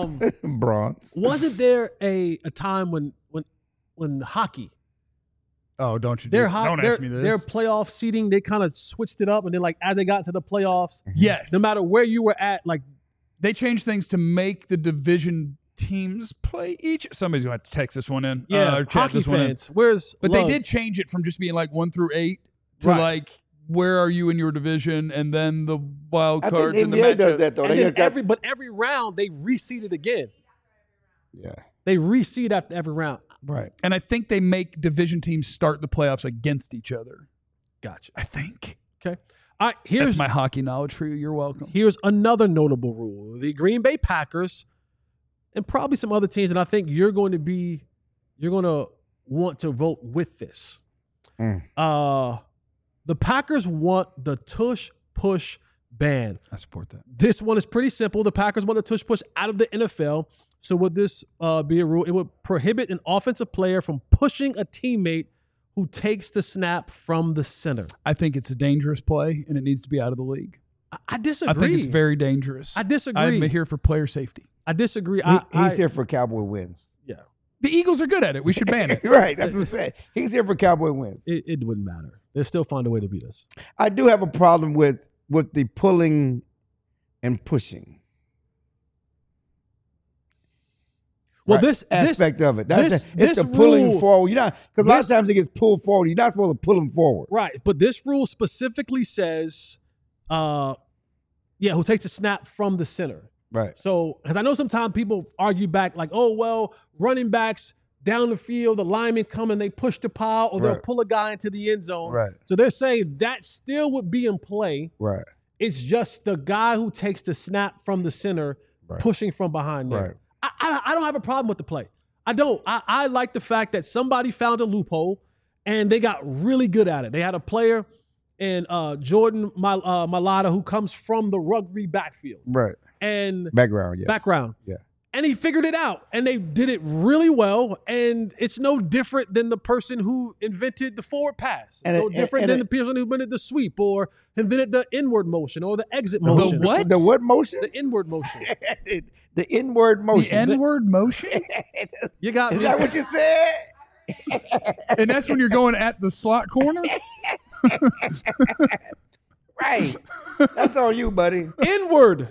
Bronze. Wasn't there a time when hockey? Oh, don't you? Don't ask me this. Their playoff seeding, they kind of switched it up, and then like as they got to the playoffs, yes, no matter where you were at, like they changed things to make the division teams play each. Somebody's gonna have to text this one in. Yeah, hockey fans. But they did change it from just being like 1 through 8 to like where are you in your division, and then the wild cards and the matchup. Does that though. And then every round they reseeded again. Yeah, they reseed after every round. Right. And I think they make division teams start the playoffs against each other. Gotcha. I think. Okay. All right, here's my hockey knowledge for you. You're welcome. Here's another notable rule. The Green Bay Packers and probably some other teams, and I think you're going to want to vote with this. The Packers want the tush push ban. I support that. This one is pretty simple. The Packers want the tush push out of the NFL. So would this be a rule? It would prohibit an offensive player from pushing a teammate who takes the snap from the center. I think it's a dangerous play, and it needs to be out of the league. I disagree. I think it's very dangerous. I disagree. I'm here for player safety. I disagree. He's here for Cowboy wins. Yeah. The Eagles are good at it. We should ban it. Right. That's what I'm saying. He's here for Cowboy wins. It wouldn't matter. They'll still find a way to beat us. I do have a problem with the pulling and pushing. Well, right. this aspect of it. It's the pulling forward. Because a lot of times it gets pulled forward. You're not supposed to pull them forward. Right. But this rule specifically says, who takes a snap from the center. Right. So, because I know sometimes people argue back like, oh, well, running backs down the field, the linemen come and they push the pile, or they'll pull a guy into the end zone. Right. So they're saying that still would be in play. Right. It's just the guy who takes the snap from the center pushing from behind there. Right. I don't have a problem with the play. I don't. I like the fact that somebody found a loophole and they got really good at it. They had a player in Jordan Mailata who comes from the rugby backfield. Right. And background, yes. Background. Yeah. And he figured it out, and they did it really well. And it's no different than the person who invented the forward pass. It's no different than the person who invented the sweep, or invented the inward motion, or the exit motion. The what? The what motion? The inward motion. The inward motion. The N-word motion? You got Is that what you said? And that's when you're going at the slot corner? Right. That's on you, buddy. Inward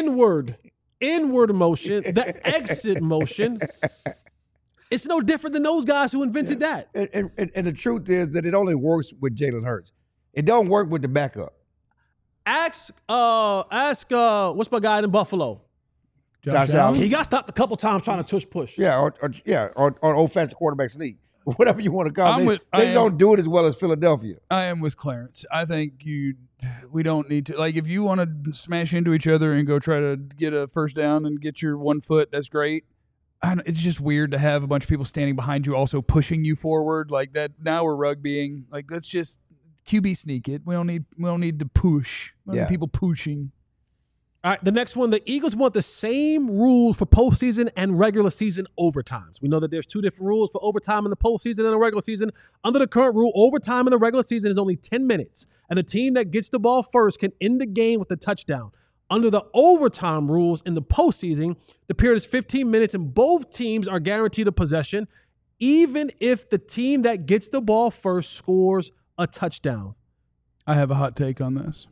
motion, the exit motion. It's no different than those guys who invented that. And the truth is that it only works with Jalen Hurts. It don't work with the backup. Ask what's my guy in Buffalo? Josh Allen. He got stopped a couple times trying to tush push. Yeah, or old-fashioned quarterback sneak. Whatever you want to call it. They just don't do it as well as Philadelphia. I am with Clarence. I think we don't need to. Like, if you want to smash into each other and go try to get a first down and get your 1 foot, that's great. It's just weird to have a bunch of people standing behind you also pushing you forward like that. Now we're rugbying. Like, let's just QB sneak it. We don't need to push. We don't need people pushing. All right, the next one, the Eagles want the same rules for postseason and regular season overtimes. We know that there's 2 different rules for overtime in the postseason and the regular season. Under the current rule, overtime in the regular season is only 10 minutes, and the team that gets the ball first can end the game with a touchdown. Under the overtime rules in the postseason, the period is 15 minutes, and both teams are guaranteed a possession, even if the team that gets the ball first scores a touchdown. I have a hot take on this.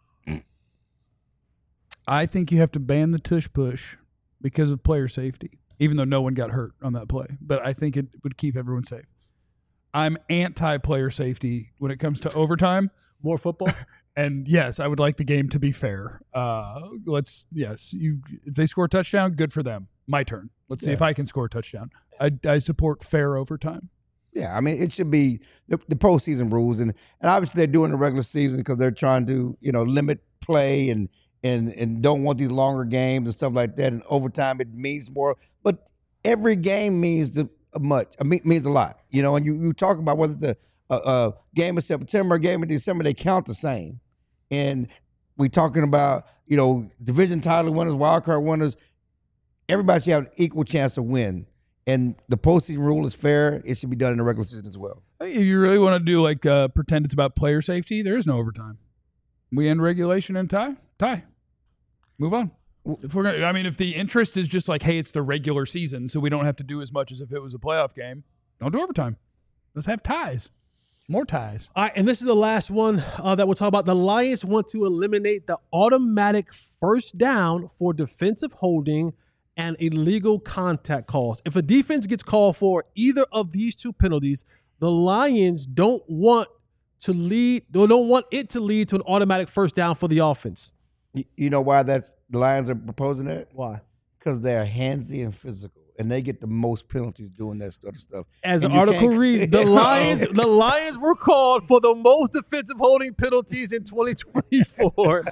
I think you have to ban the tush push because of player safety, even though no one got hurt on that play. But I think it would keep everyone safe. I'm anti-player safety when it comes to overtime. More football? And yes, I would like the game to be fair. If they score a touchdown, good for them. My turn. Let's see if I can score a touchdown. I support fair overtime. Yeah, I mean, it should be the postseason rules. And obviously they're doing the regular season because they're trying to, limit play and don't want these longer games and stuff like that. And overtime, it means more. But every game means means a lot, And you talk about whether it's a game in September, a game in December, they count the same. And we talking about, division title winners, wild card winners. Everybody should have an equal chance to win. And the postseason rule is fair. It should be done in the regular season as well. If you really want to do pretend it's about player safety, there is no overtime. We end regulation and tie. Move on. If the interest is just like, hey, it's the regular season, so we don't have to do as much as if it was a playoff game, don't do overtime. Let's have ties. More ties. All right, and this is the last one that we'll talk about. The Lions want to eliminate the automatic first down for defensive holding and illegal contact calls. If a defense gets called for either of these 2 penalties, the Lions don't want it to lead to an automatic first down for the offense. You know why the Lions are proposing that? Why? Because they're handsy and physical, and they get the most penalties doing that sort of stuff. As the article reads, the Lions were called for the most defensive holding penalties in 2024.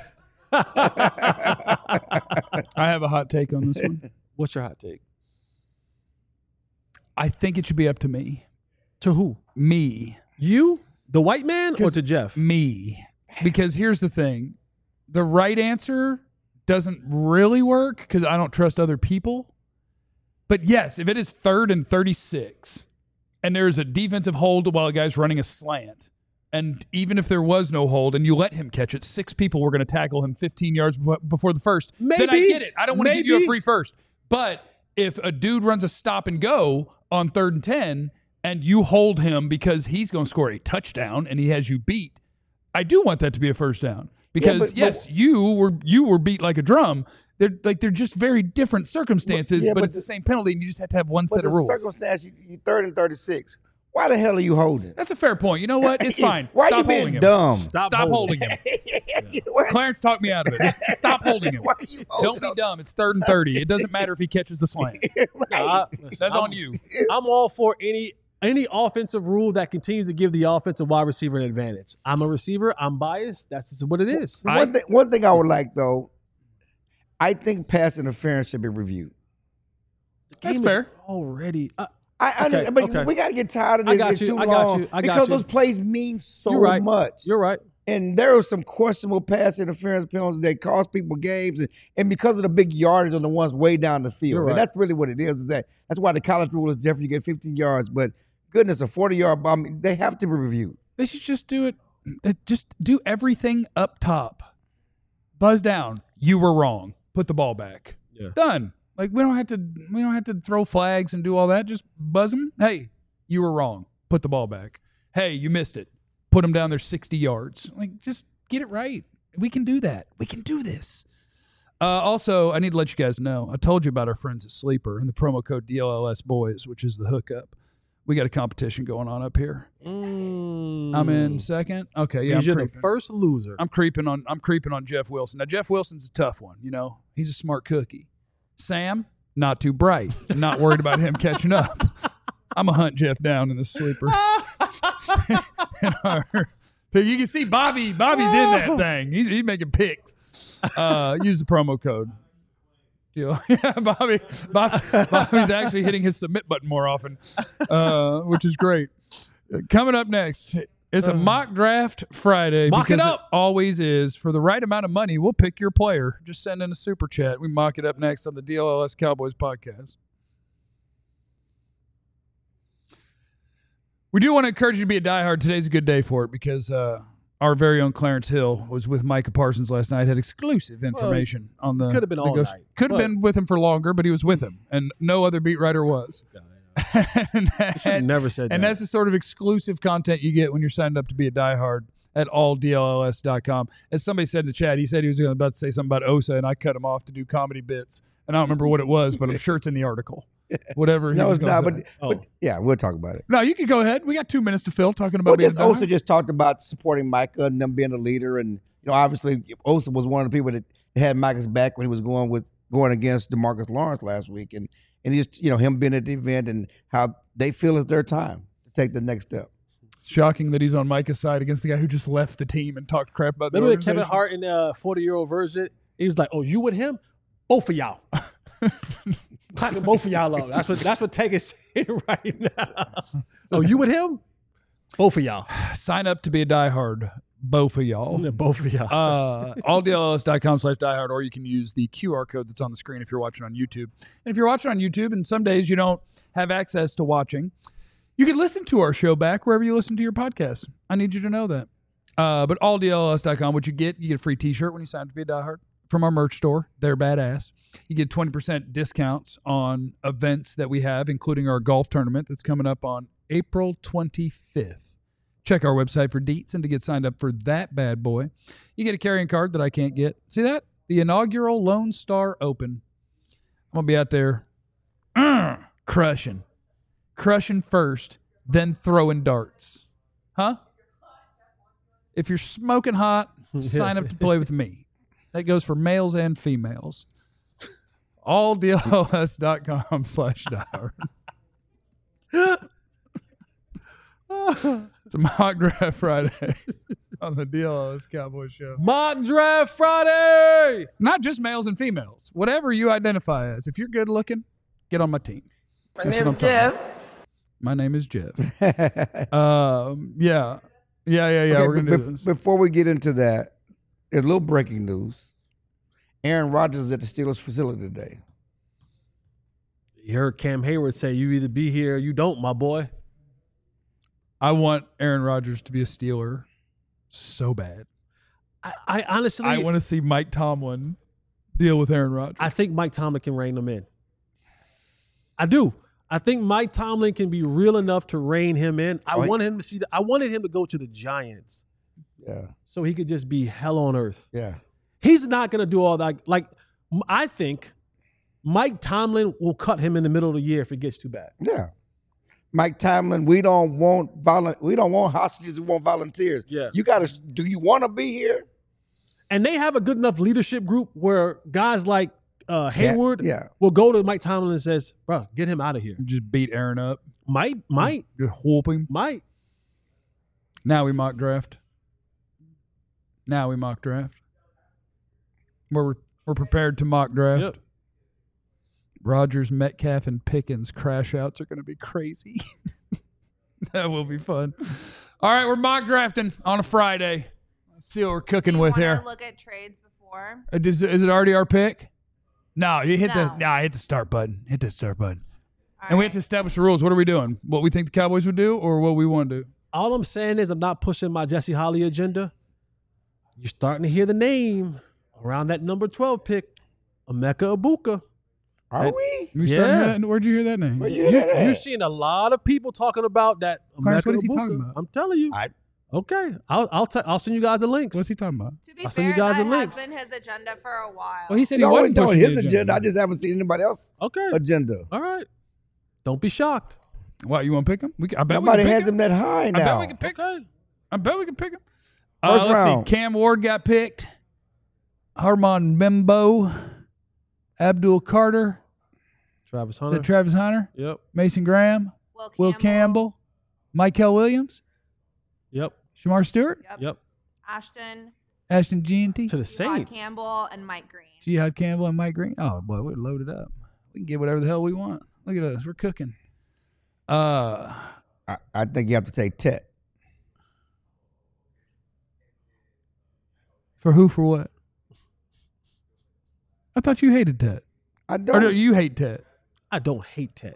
I have a hot take on this one. What's your hot take? I think it should be up to me. To who? Me. You? The white man or to Jeff? Me. Because here's the thing. The right answer doesn't really work because I don't trust other people. But yes, if it is 3rd and 36 and there's a defensive hold while a guy's running a slant, and even if there was no hold and you let him catch it, 6 people were going to tackle him 15 yards before the first, then I get it. I don't want to give you a free first. But if a dude runs a stop and go on 3rd and 10 and you hold him because he's going to score a touchdown and he has you beat, I do want that to be a first down. Because you were beat like a drum. They're just very different circumstances, but it's the same penalty, and you just have to have one set of rules. Circumstance, you 3rd and 36. Why the hell are you holding? That's a fair point. You know what? It's fine. Why Stop are you being holding him. dumb? Stop holding him. Clarence talked me out of it. Stop holding him. Don't be dumb. It's 3rd and 30. It doesn't matter if he catches the slant. That's on you. I'm all for any offensive rule that continues to give the offensive wide receiver an advantage. I'm a receiver. I'm biased. That's just what it is. One thing I would like, though, I think pass interference should be reviewed. That's fair. Already. But we got to get tired of this. It's too long. Because those plays mean so much. You're right. And there are some questionable pass interference penalties that cost people games. And because of the big yardage on the ones way down the field. Right. And that's really what it is. That's why the college rule is different. You get 15 yards. But goodness, a 40-yard bomb, they have to be reviewed. They should just do it. Just do everything up top. Buzz down. You were wrong. Put the ball back. Yeah. Done. Like we don't have to throw flags and do all that. Just buzz them. Hey, you were wrong. Put the ball back. Hey, you missed it. Put them down there 60 yards. Like just get it right. We can do that. We can do this. Also, I need to let you guys know. I told you about our friends at Sleeper and the promo code DLLS Boys, which is the hookup. We got a competition going on up here. I'm in second. Okay, yeah. You're the first loser. I'm creeping on Jeff Wilson. Now Jeff Wilson's a tough one. You know, he's a smart cookie. Sam, not too bright. Not worried about him catching up. I'm gonna hunt Jeff down in the sleeper. You can see Bobby's in that thing. He's making picks. Use the promo code. Deal. Yeah, Bobby's actually hitting his submit button more often, which is great. Coming up next, it's a mock draft Friday. Mock because it up. It always is. For the right amount of money, we'll pick your player. Just send in a super chat. We mock it up next on the DLLS Cowboys podcast. We do want to encourage you to be a diehard. Today's a good day for it because our very own Clarence Hill was with Micah Parsons last night, had exclusive information on the... Could have been all night. Could have been with him for longer, but he was with him, and no other beat writer was. and never said that. And that's the sort of exclusive content you get when you're signed up to be a diehard at alldlls.com. As somebody said in the chat, he said he was about to say something about Osa, and I cut him off to do comedy bits. And I don't remember what it was, but I'm sure it's in the article. Whatever. No, it's not. But yeah, we'll talk about it. No, you can go ahead. We got 2 minutes to fill talking about. Osa just talked about supporting Micah and them being a leader, and obviously Osa was one of the people that had Micah's back when he was going against DeMarcus Lawrence last week, and just him being at the event and how they feel it's their time to take the next step. Shocking that he's on Micah's side against the guy who just left the team and talked crap about the organization. Remember Kevin Hart in the 40-year-old version? He was like, "Oh, you with him? Both of y'all." Clapping both of y'all up. That's what Tag is saying right now. Oh, you with him? Both of y'all. Sign up to be a diehard. Both of y'all. Yeah, both of y'all. alldlls.com/diehard, or you can use the QR code that's on the screen if you're watching on YouTube. And if you're watching on YouTube and some days you don't have access to watching, you can listen to our show back wherever you listen to your podcast. I need you to know that. But alldlls.com, what you get a free t-shirt when you sign up to be a diehard from our merch store. They're badass. You get 20% discounts on events that we have, including our golf tournament that's coming up on April 25th. Check our website for deets and to get signed up for that bad boy. You get a carrying card that I can't get. See that? The inaugural Lone Star Open. I'm going to be out there crushing first, then throwing darts. Huh? If you're smoking hot, sign up to play with me. That goes for males and females. alldlls.com/diehard. It's a mock draft Friday on the DLLS Cowboys show. Mock draft Friday! Not just males and females. Whatever you identify as. If you're good looking, get on my team. My name is Jeff. My name is Jeff. Yeah. Okay, we're going to do this. Before we get into that, there's a little breaking news. Aaron Rodgers is at the Steelers facility today. You heard Cam Hayward say, "You either be here or you don't, my boy." I want Aaron Rodgers to be a Steeler so bad. I honestly... I want to see Mike Tomlin deal with Aaron Rodgers. I think Mike Tomlin can rein them in. I do. I think Mike Tomlin can be real enough to rein him in. I wanted him to go to the Giants. Yeah. So he could just be hell on earth. Yeah. He's not going to do all that. Like, I think Mike Tomlin will cut him in the middle of the year if it gets too bad. Yeah. Mike Tomlin, we don't want hostages, we want volunteers. Yeah. Do you want to be here? And they have a good enough leadership group where guys like Hayward yeah. will go to Mike Tomlin and says, "Bro, get him out of here." Just beat Aaron up. Might. Just whoop him. Might. Now we mock draft. We're prepared to mock draft. Yep. Rodgers, Metcalf, and Pickens crash outs are going to be crazy. That will be fun. All right, we're mock drafting on a Friday. Let's see what we're cooking with here. Want to look at trades before? Is it already our pick? No, you hit No. hit the start button. Hit the start button. All And we right. have to establish the rules. What are we doing? What we think the Cowboys would do or what we want to do? All I'm saying is I'm not pushing my Jesse Holly agenda. You're starting to hear the name around that number 12 pick, Emeka Egbuka. Are we? Where'd you hear that name? You're seeing a lot of people talking about that. Clarence, what Emeka is he Egbuka. talking about? I'm telling you. Okay, I'll send you guys the links. What's he talking about? To be I'll send you fair, guys the that links. has been his agenda for a while. Well, he said He he always wasn't doing pushing his the agenda. I just haven't seen anybody else's Okay. agenda. All right. Don't be shocked. What, you want to pick him? I bet Nobody we can has pick him that high now. I bet we can pick him. I bet we can pick him. First Let's round. see. Cam Ward got picked. Harmon Bimbo. Abdul Carter. Travis Is Hunter. that Travis Hunter? Yep. Mason Graham. Will Campbell. Michael Williams. Yep. Shamar Stewart. Yep. Ashton G&T. To the Jihad Saints. Campbell and Mike Green. Jihad Campbell and Mike Green. Oh, boy, we're loaded up. We can get whatever the hell we want. Look at us. We're cooking. I think you have to take Tet. For who, for what? I thought you hated Tet. I Or don't. no, you hate Tet. I don't hate Ted.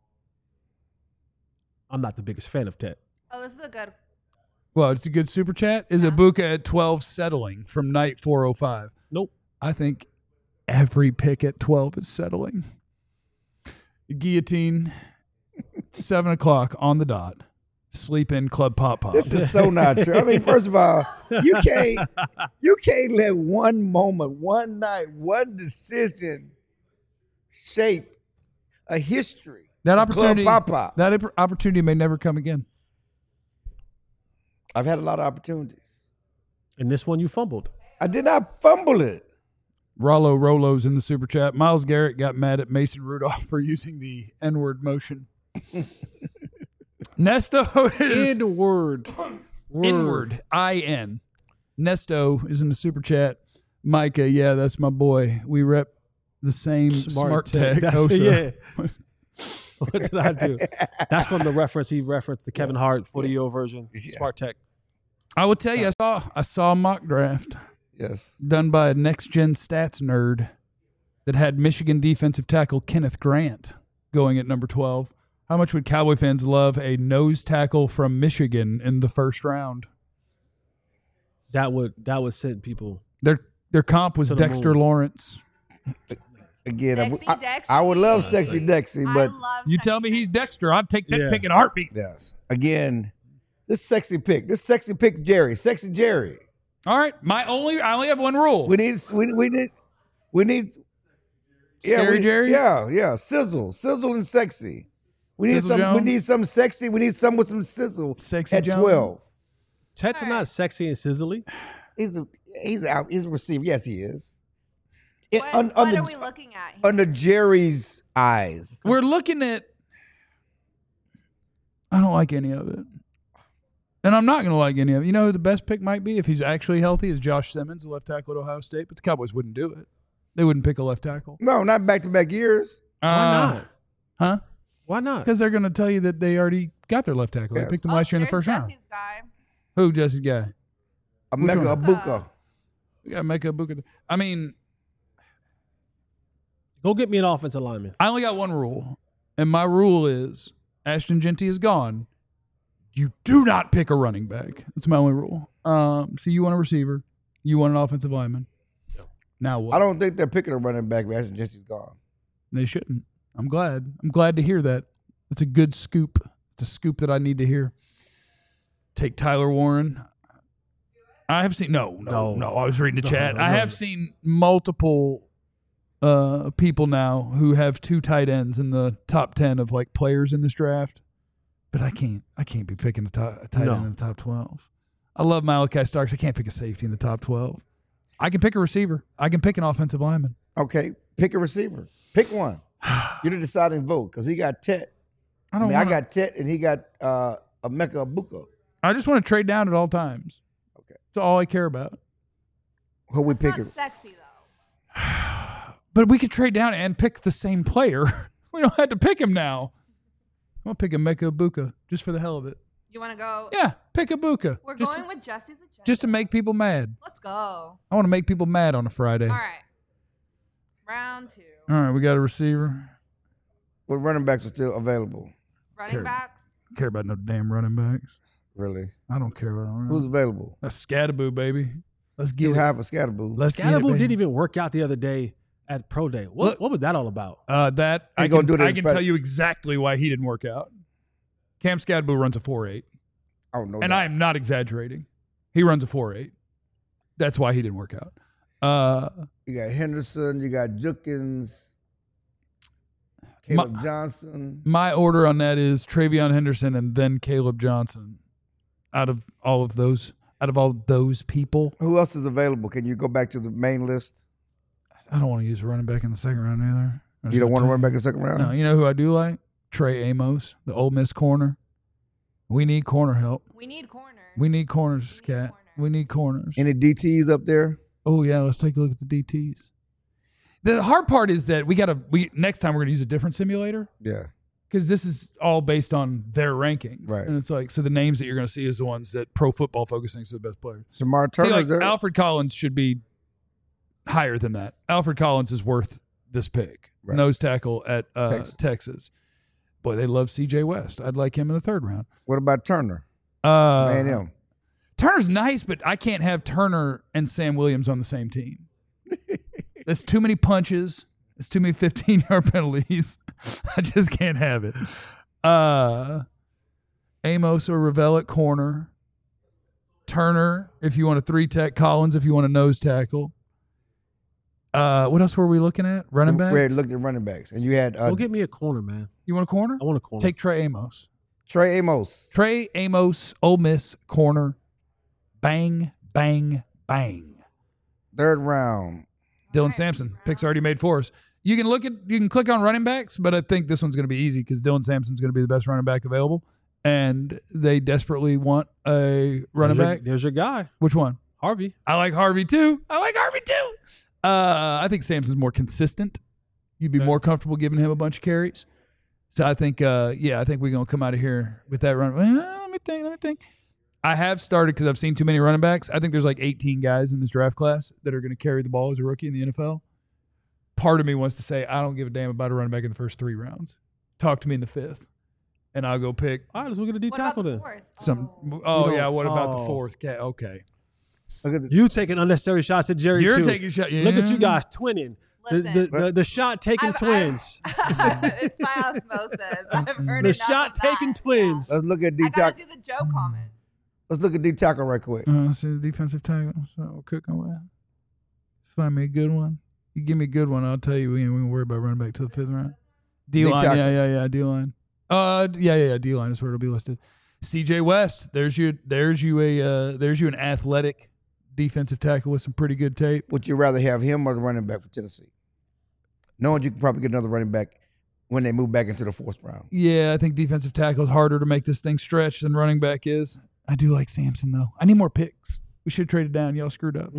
I'm not the biggest fan of Ted. Oh, this is a good. Well, it's a good super chat. Is Ibuka at 12 settling from night 405? Nope. I think every pick at 12 is settling. Guillotine, 7 o'clock on the dot. Sleep in Club Pop Pop. This is so not true. I mean, first of all, you can't let one moment, one night, one decision shape a history. That opportunity, Club Pop Pop. that opportunity may never come again. I've had a lot of opportunities. And this one you fumbled. I did not fumble it. Rollo Rolo's in the super chat. Miles Garrett got mad at Mason Rudolph for using the N-word motion. Nesto is N-word. Inward. I-N. Nesto is in the super chat. Micah, yeah, that's my boy. We rep the same smart tech. Yeah. What did I do? That's from the reference he referenced, the Kevin Hart 40-year version. Yeah. Smart Tech. I will tell you, I saw a mock draft Yes. done by a next-gen stats nerd that had Michigan defensive tackle Kenneth Grant going at number 12. How much would Cowboy fans love a nose tackle from Michigan in the first round? That would send people. Their comp was To the Dexter moon. Lawrence. Again, Dexy. I would love Sexy Dexy, but I love You tell me he's Dexter, I'd take that Yeah. pick in a heartbeat. yes. Again, this sexy pick, Sexy Jerry. All right, I only have one rule. We need. Scary Jerry? Yeah. Sizzle and sexy. We need Sizzle some. Jones? We need some sexy. We need some with some sizzle. Sexy at Jones? 12. Ted's not sexy and sizzly. He's a receiver. Yes, he is. What are we looking at here? Under Jerry's eyes. We're looking at. I don't like any of it. And I'm not going to like any of it. You know who the best pick might be if he's actually healthy is Josh Simmons, the left tackle at Ohio State. But the Cowboys wouldn't do it. They wouldn't pick a left tackle. No, not back-to-back years. Why not? Huh? Why not? Because they're going to tell you that they already got their left tackle. Yes. They picked him last year in the there's first round. Jesse's guy. Who, Jesse's guy? Mega one? Abuka. We got to make a book. I mean, Go get me an offensive lineman. I only got one rule. And my rule is Ashton Genty is gone. You do not pick a running back. That's my only rule. So you want a receiver. You want an offensive lineman. Now what? I don't think they're picking a running back. Ashton Jesse's gone. They shouldn't. I'm glad. I'm glad to hear that. It's a good scoop. It's a scoop that I need to hear. Take Tyler Warren. I have seen no. I was reading the chat. I have seen multiple people now who have 2 tight ends in the top 10 of like players in this draft. But I can't be picking a tight end in the top 12. I love Malachi Starks. I can't pick a safety in the top 12. I can pick a receiver. I can pick an offensive lineman. Okay, pick a receiver. Pick one. You're the deciding vote because he got Tet. I got Tet and he got Emeka Abuka. I just want to trade down at all times. Okay. That's all I care about. Who we It's picking? not sexy though. But we could trade down and pick the same player. We don't have to pick him now. I'm going to pick Emeka Abuka just for the hell of it. You want to go? Yeah, pick Abuka. We're just going with Jesse's agenda. just to make people mad. Let's go. I want to make people mad on a Friday. All right. Round 2. All right, we got a receiver. What running backs are still available? Running backs. Care about no damn running backs. Really? I don't care about all Who's that. available? That's Scatterboo, baby. Let's get Too it. high for Scatterboo. Let's get it, Scatterboo baby. didn't even work out the other day at Pro Day. What was that all about? That He I gonna can, do it I in can prep. tell you exactly why he didn't work out. Cam Scatterboo runs a 4.8. I don't know. And I am not exaggerating. He runs a 4.8. That's why he didn't work out. You got Henderson. You got Jukins. Caleb Johnson. My order on that is Travion Henderson and then Caleb Johnson. Out of all those people. Who else is available? Can you go back to the main list? I don't want to use a running back in the second round either. You don't want to run back in the second round? No, you know who I do like? Trey Amos, the Ole Miss corner. We need corner help. We need corners. We need corners, Cat. We need corners. Any DTs up there? Oh yeah, let's take a look at the DTs. The hard part is that next time we're gonna use a different simulator. Yeah. Because this is all based on their rankings. Right. And it's like, so the names that you're gonna see is the ones that Pro Football Focus thinks are the best players. Jamar Turner's there. Alfred Collins should be higher than that. Alfred Collins is worth this pick. Right. Nose tackle at Texas. Boy, they love CJ West. I'd like him in the third round. What about Turner? A&M. Turner's nice, but I can't have Turner and Sam Williams on the same team. That's too many punches. It's too many 15-yard penalties. I just can't have it. Amos or Ravel at corner. Turner, if you want a 3-tech. Collins, if you want a nose tackle. What else were we looking at? Running backs? We had looked at running backs. And you had... Go get me a corner, man. You want a corner? I want a corner. Take Trey Amos. Trey Amos, Ole Miss, corner. Bang, bang, bang. Third round. Dylan Sampson. Pick's already made for us. You can click on running backs, but I think this one's going to be easy because Dylan Sampson's going to be the best running back available. And they desperately want a running back. There's your guy. Which one? Harvey. I like Harvey too. I think Sampson's more consistent. You'd be more comfortable giving him a bunch of carries. So I think, I think we're going to come out of here with that run. Well, let me think. I have started because I've seen too many running backs. I think there's like 18 guys in this draft class that are going to carry the ball as a rookie in the NFL. Part of me wants to say, I don't give a damn about a running back in the first 3 rounds. Talk to me in the 5th, and I'll go pick. All right, let's look at the D tackle then. What about the 4th? Okay. You taking unnecessary shots at Jerry. You're too. taking shots. Yeah. Look at you guys twinning. The shot taking twins. It's my osmosis. I've heard the enough shot of taking that. twins. Let's look at D I gotta tackle. do the Joe comment. Let's look at D tackle right quick. See the defensive tackle. So we're cooking with. Find me a good one. You give me a good one, I'll tell you we ain't worry about running back to the 5th round. D-line, yeah, D-line. D-line is where it'll be listed. CJ West, there's you an athletic defensive tackle with some pretty good tape. Would you rather have him or the running back for Tennessee? Knowing you can probably get another running back when they move back into the 4th round. Yeah, I think defensive tackle is harder to make this thing stretch than running back is. I do like Sampson, though. I need more picks. We should have traded down. Y'all screwed up.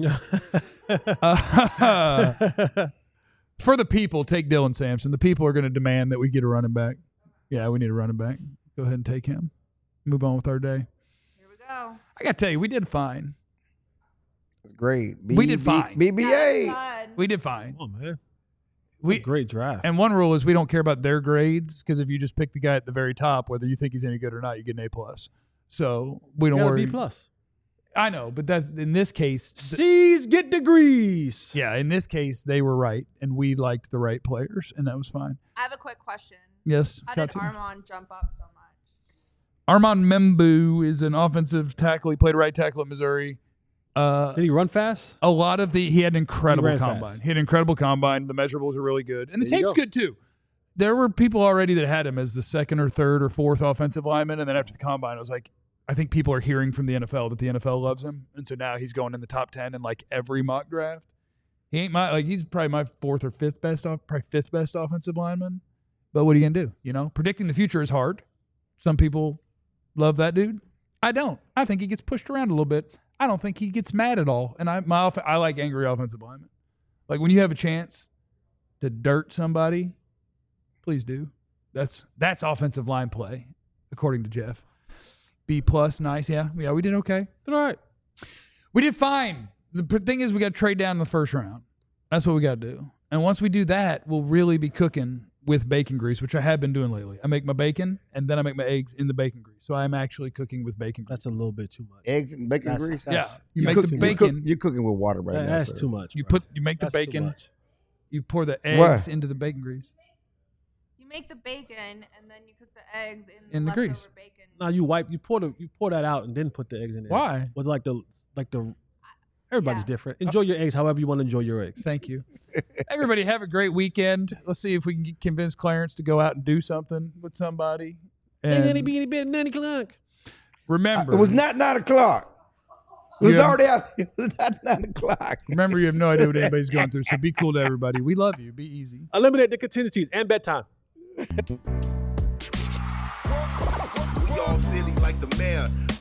For the people, take Dylan Sampson. The people are going to demand that we get a running back. Yeah, we need a running back. Go ahead and take him. Move on with our day. Here we go. I got to tell you, we did fine. It's great. We did fine. BBA. We did fine. Oh, man. Great draft. And one rule is we don't care about their grades because if you just pick the guy at the very top, whether you think he's any good or not, you get an A+. So we don't worry. B+. I know, but that's in this case. C's get degrees. Yeah, in this case, they were right, and we liked the right players, and that was fine. I have a quick question. Yes. How did Armand jump up so much? Armand Membu is an offensive tackle. He played right tackle at Missouri. Did he run fast? A lot of he had an incredible combine. Fast. He had an incredible combine. The measurables are really good, and the tape's good too. There were people already that had him as the 2nd or 3rd or 4th offensive lineman, and then after the combine, it was like, I think people are hearing from the NFL that the NFL loves him, and so now he's going in the top 10 in like every mock draft. He ain't he's probably my 4th or 5th best, probably 5th best offensive lineman. But what are you gonna do? You know, predicting the future is hard. Some people love that dude. I don't. I think he gets pushed around a little bit. I don't think he gets mad at all. And I like angry offensive linemen. Like when you have a chance to dirt somebody, please do. That's offensive line play, according to Jeff. B+, nice. Yeah, we did okay. All right. We did fine. The thing is we got to trade down in the 1st round. That's what we got to do. And once we do that, we'll really be cooking with bacon grease, which I have been doing lately. I make my bacon, and then I make my eggs in the bacon grease. So I'm actually cooking with bacon grease. That's a little bit too much. Eggs and bacon grease? Yeah. You make the bacon. You're cooking with water right now. That's too much. You make the bacon. You pour the eggs into the bacon grease. You make the bacon, and then you cook the eggs in the grease. Bacon. No, you pour that out and then put the eggs in there. Why? With like the Everybody's different. Enjoy your eggs however you want to enjoy your eggs. Thank you. Everybody have a great weekend. Let's see if we can convince Clarence to go out and do something with somebody. And Bit 9 o'clock. remember, It was not 9 o'clock. It was already out. It was not 9 o'clock. remember, you have no idea what anybody's going through, so be cool to everybody. We love you. Be easy. Eliminate the contingencies and bedtime. We all silly like the mayor.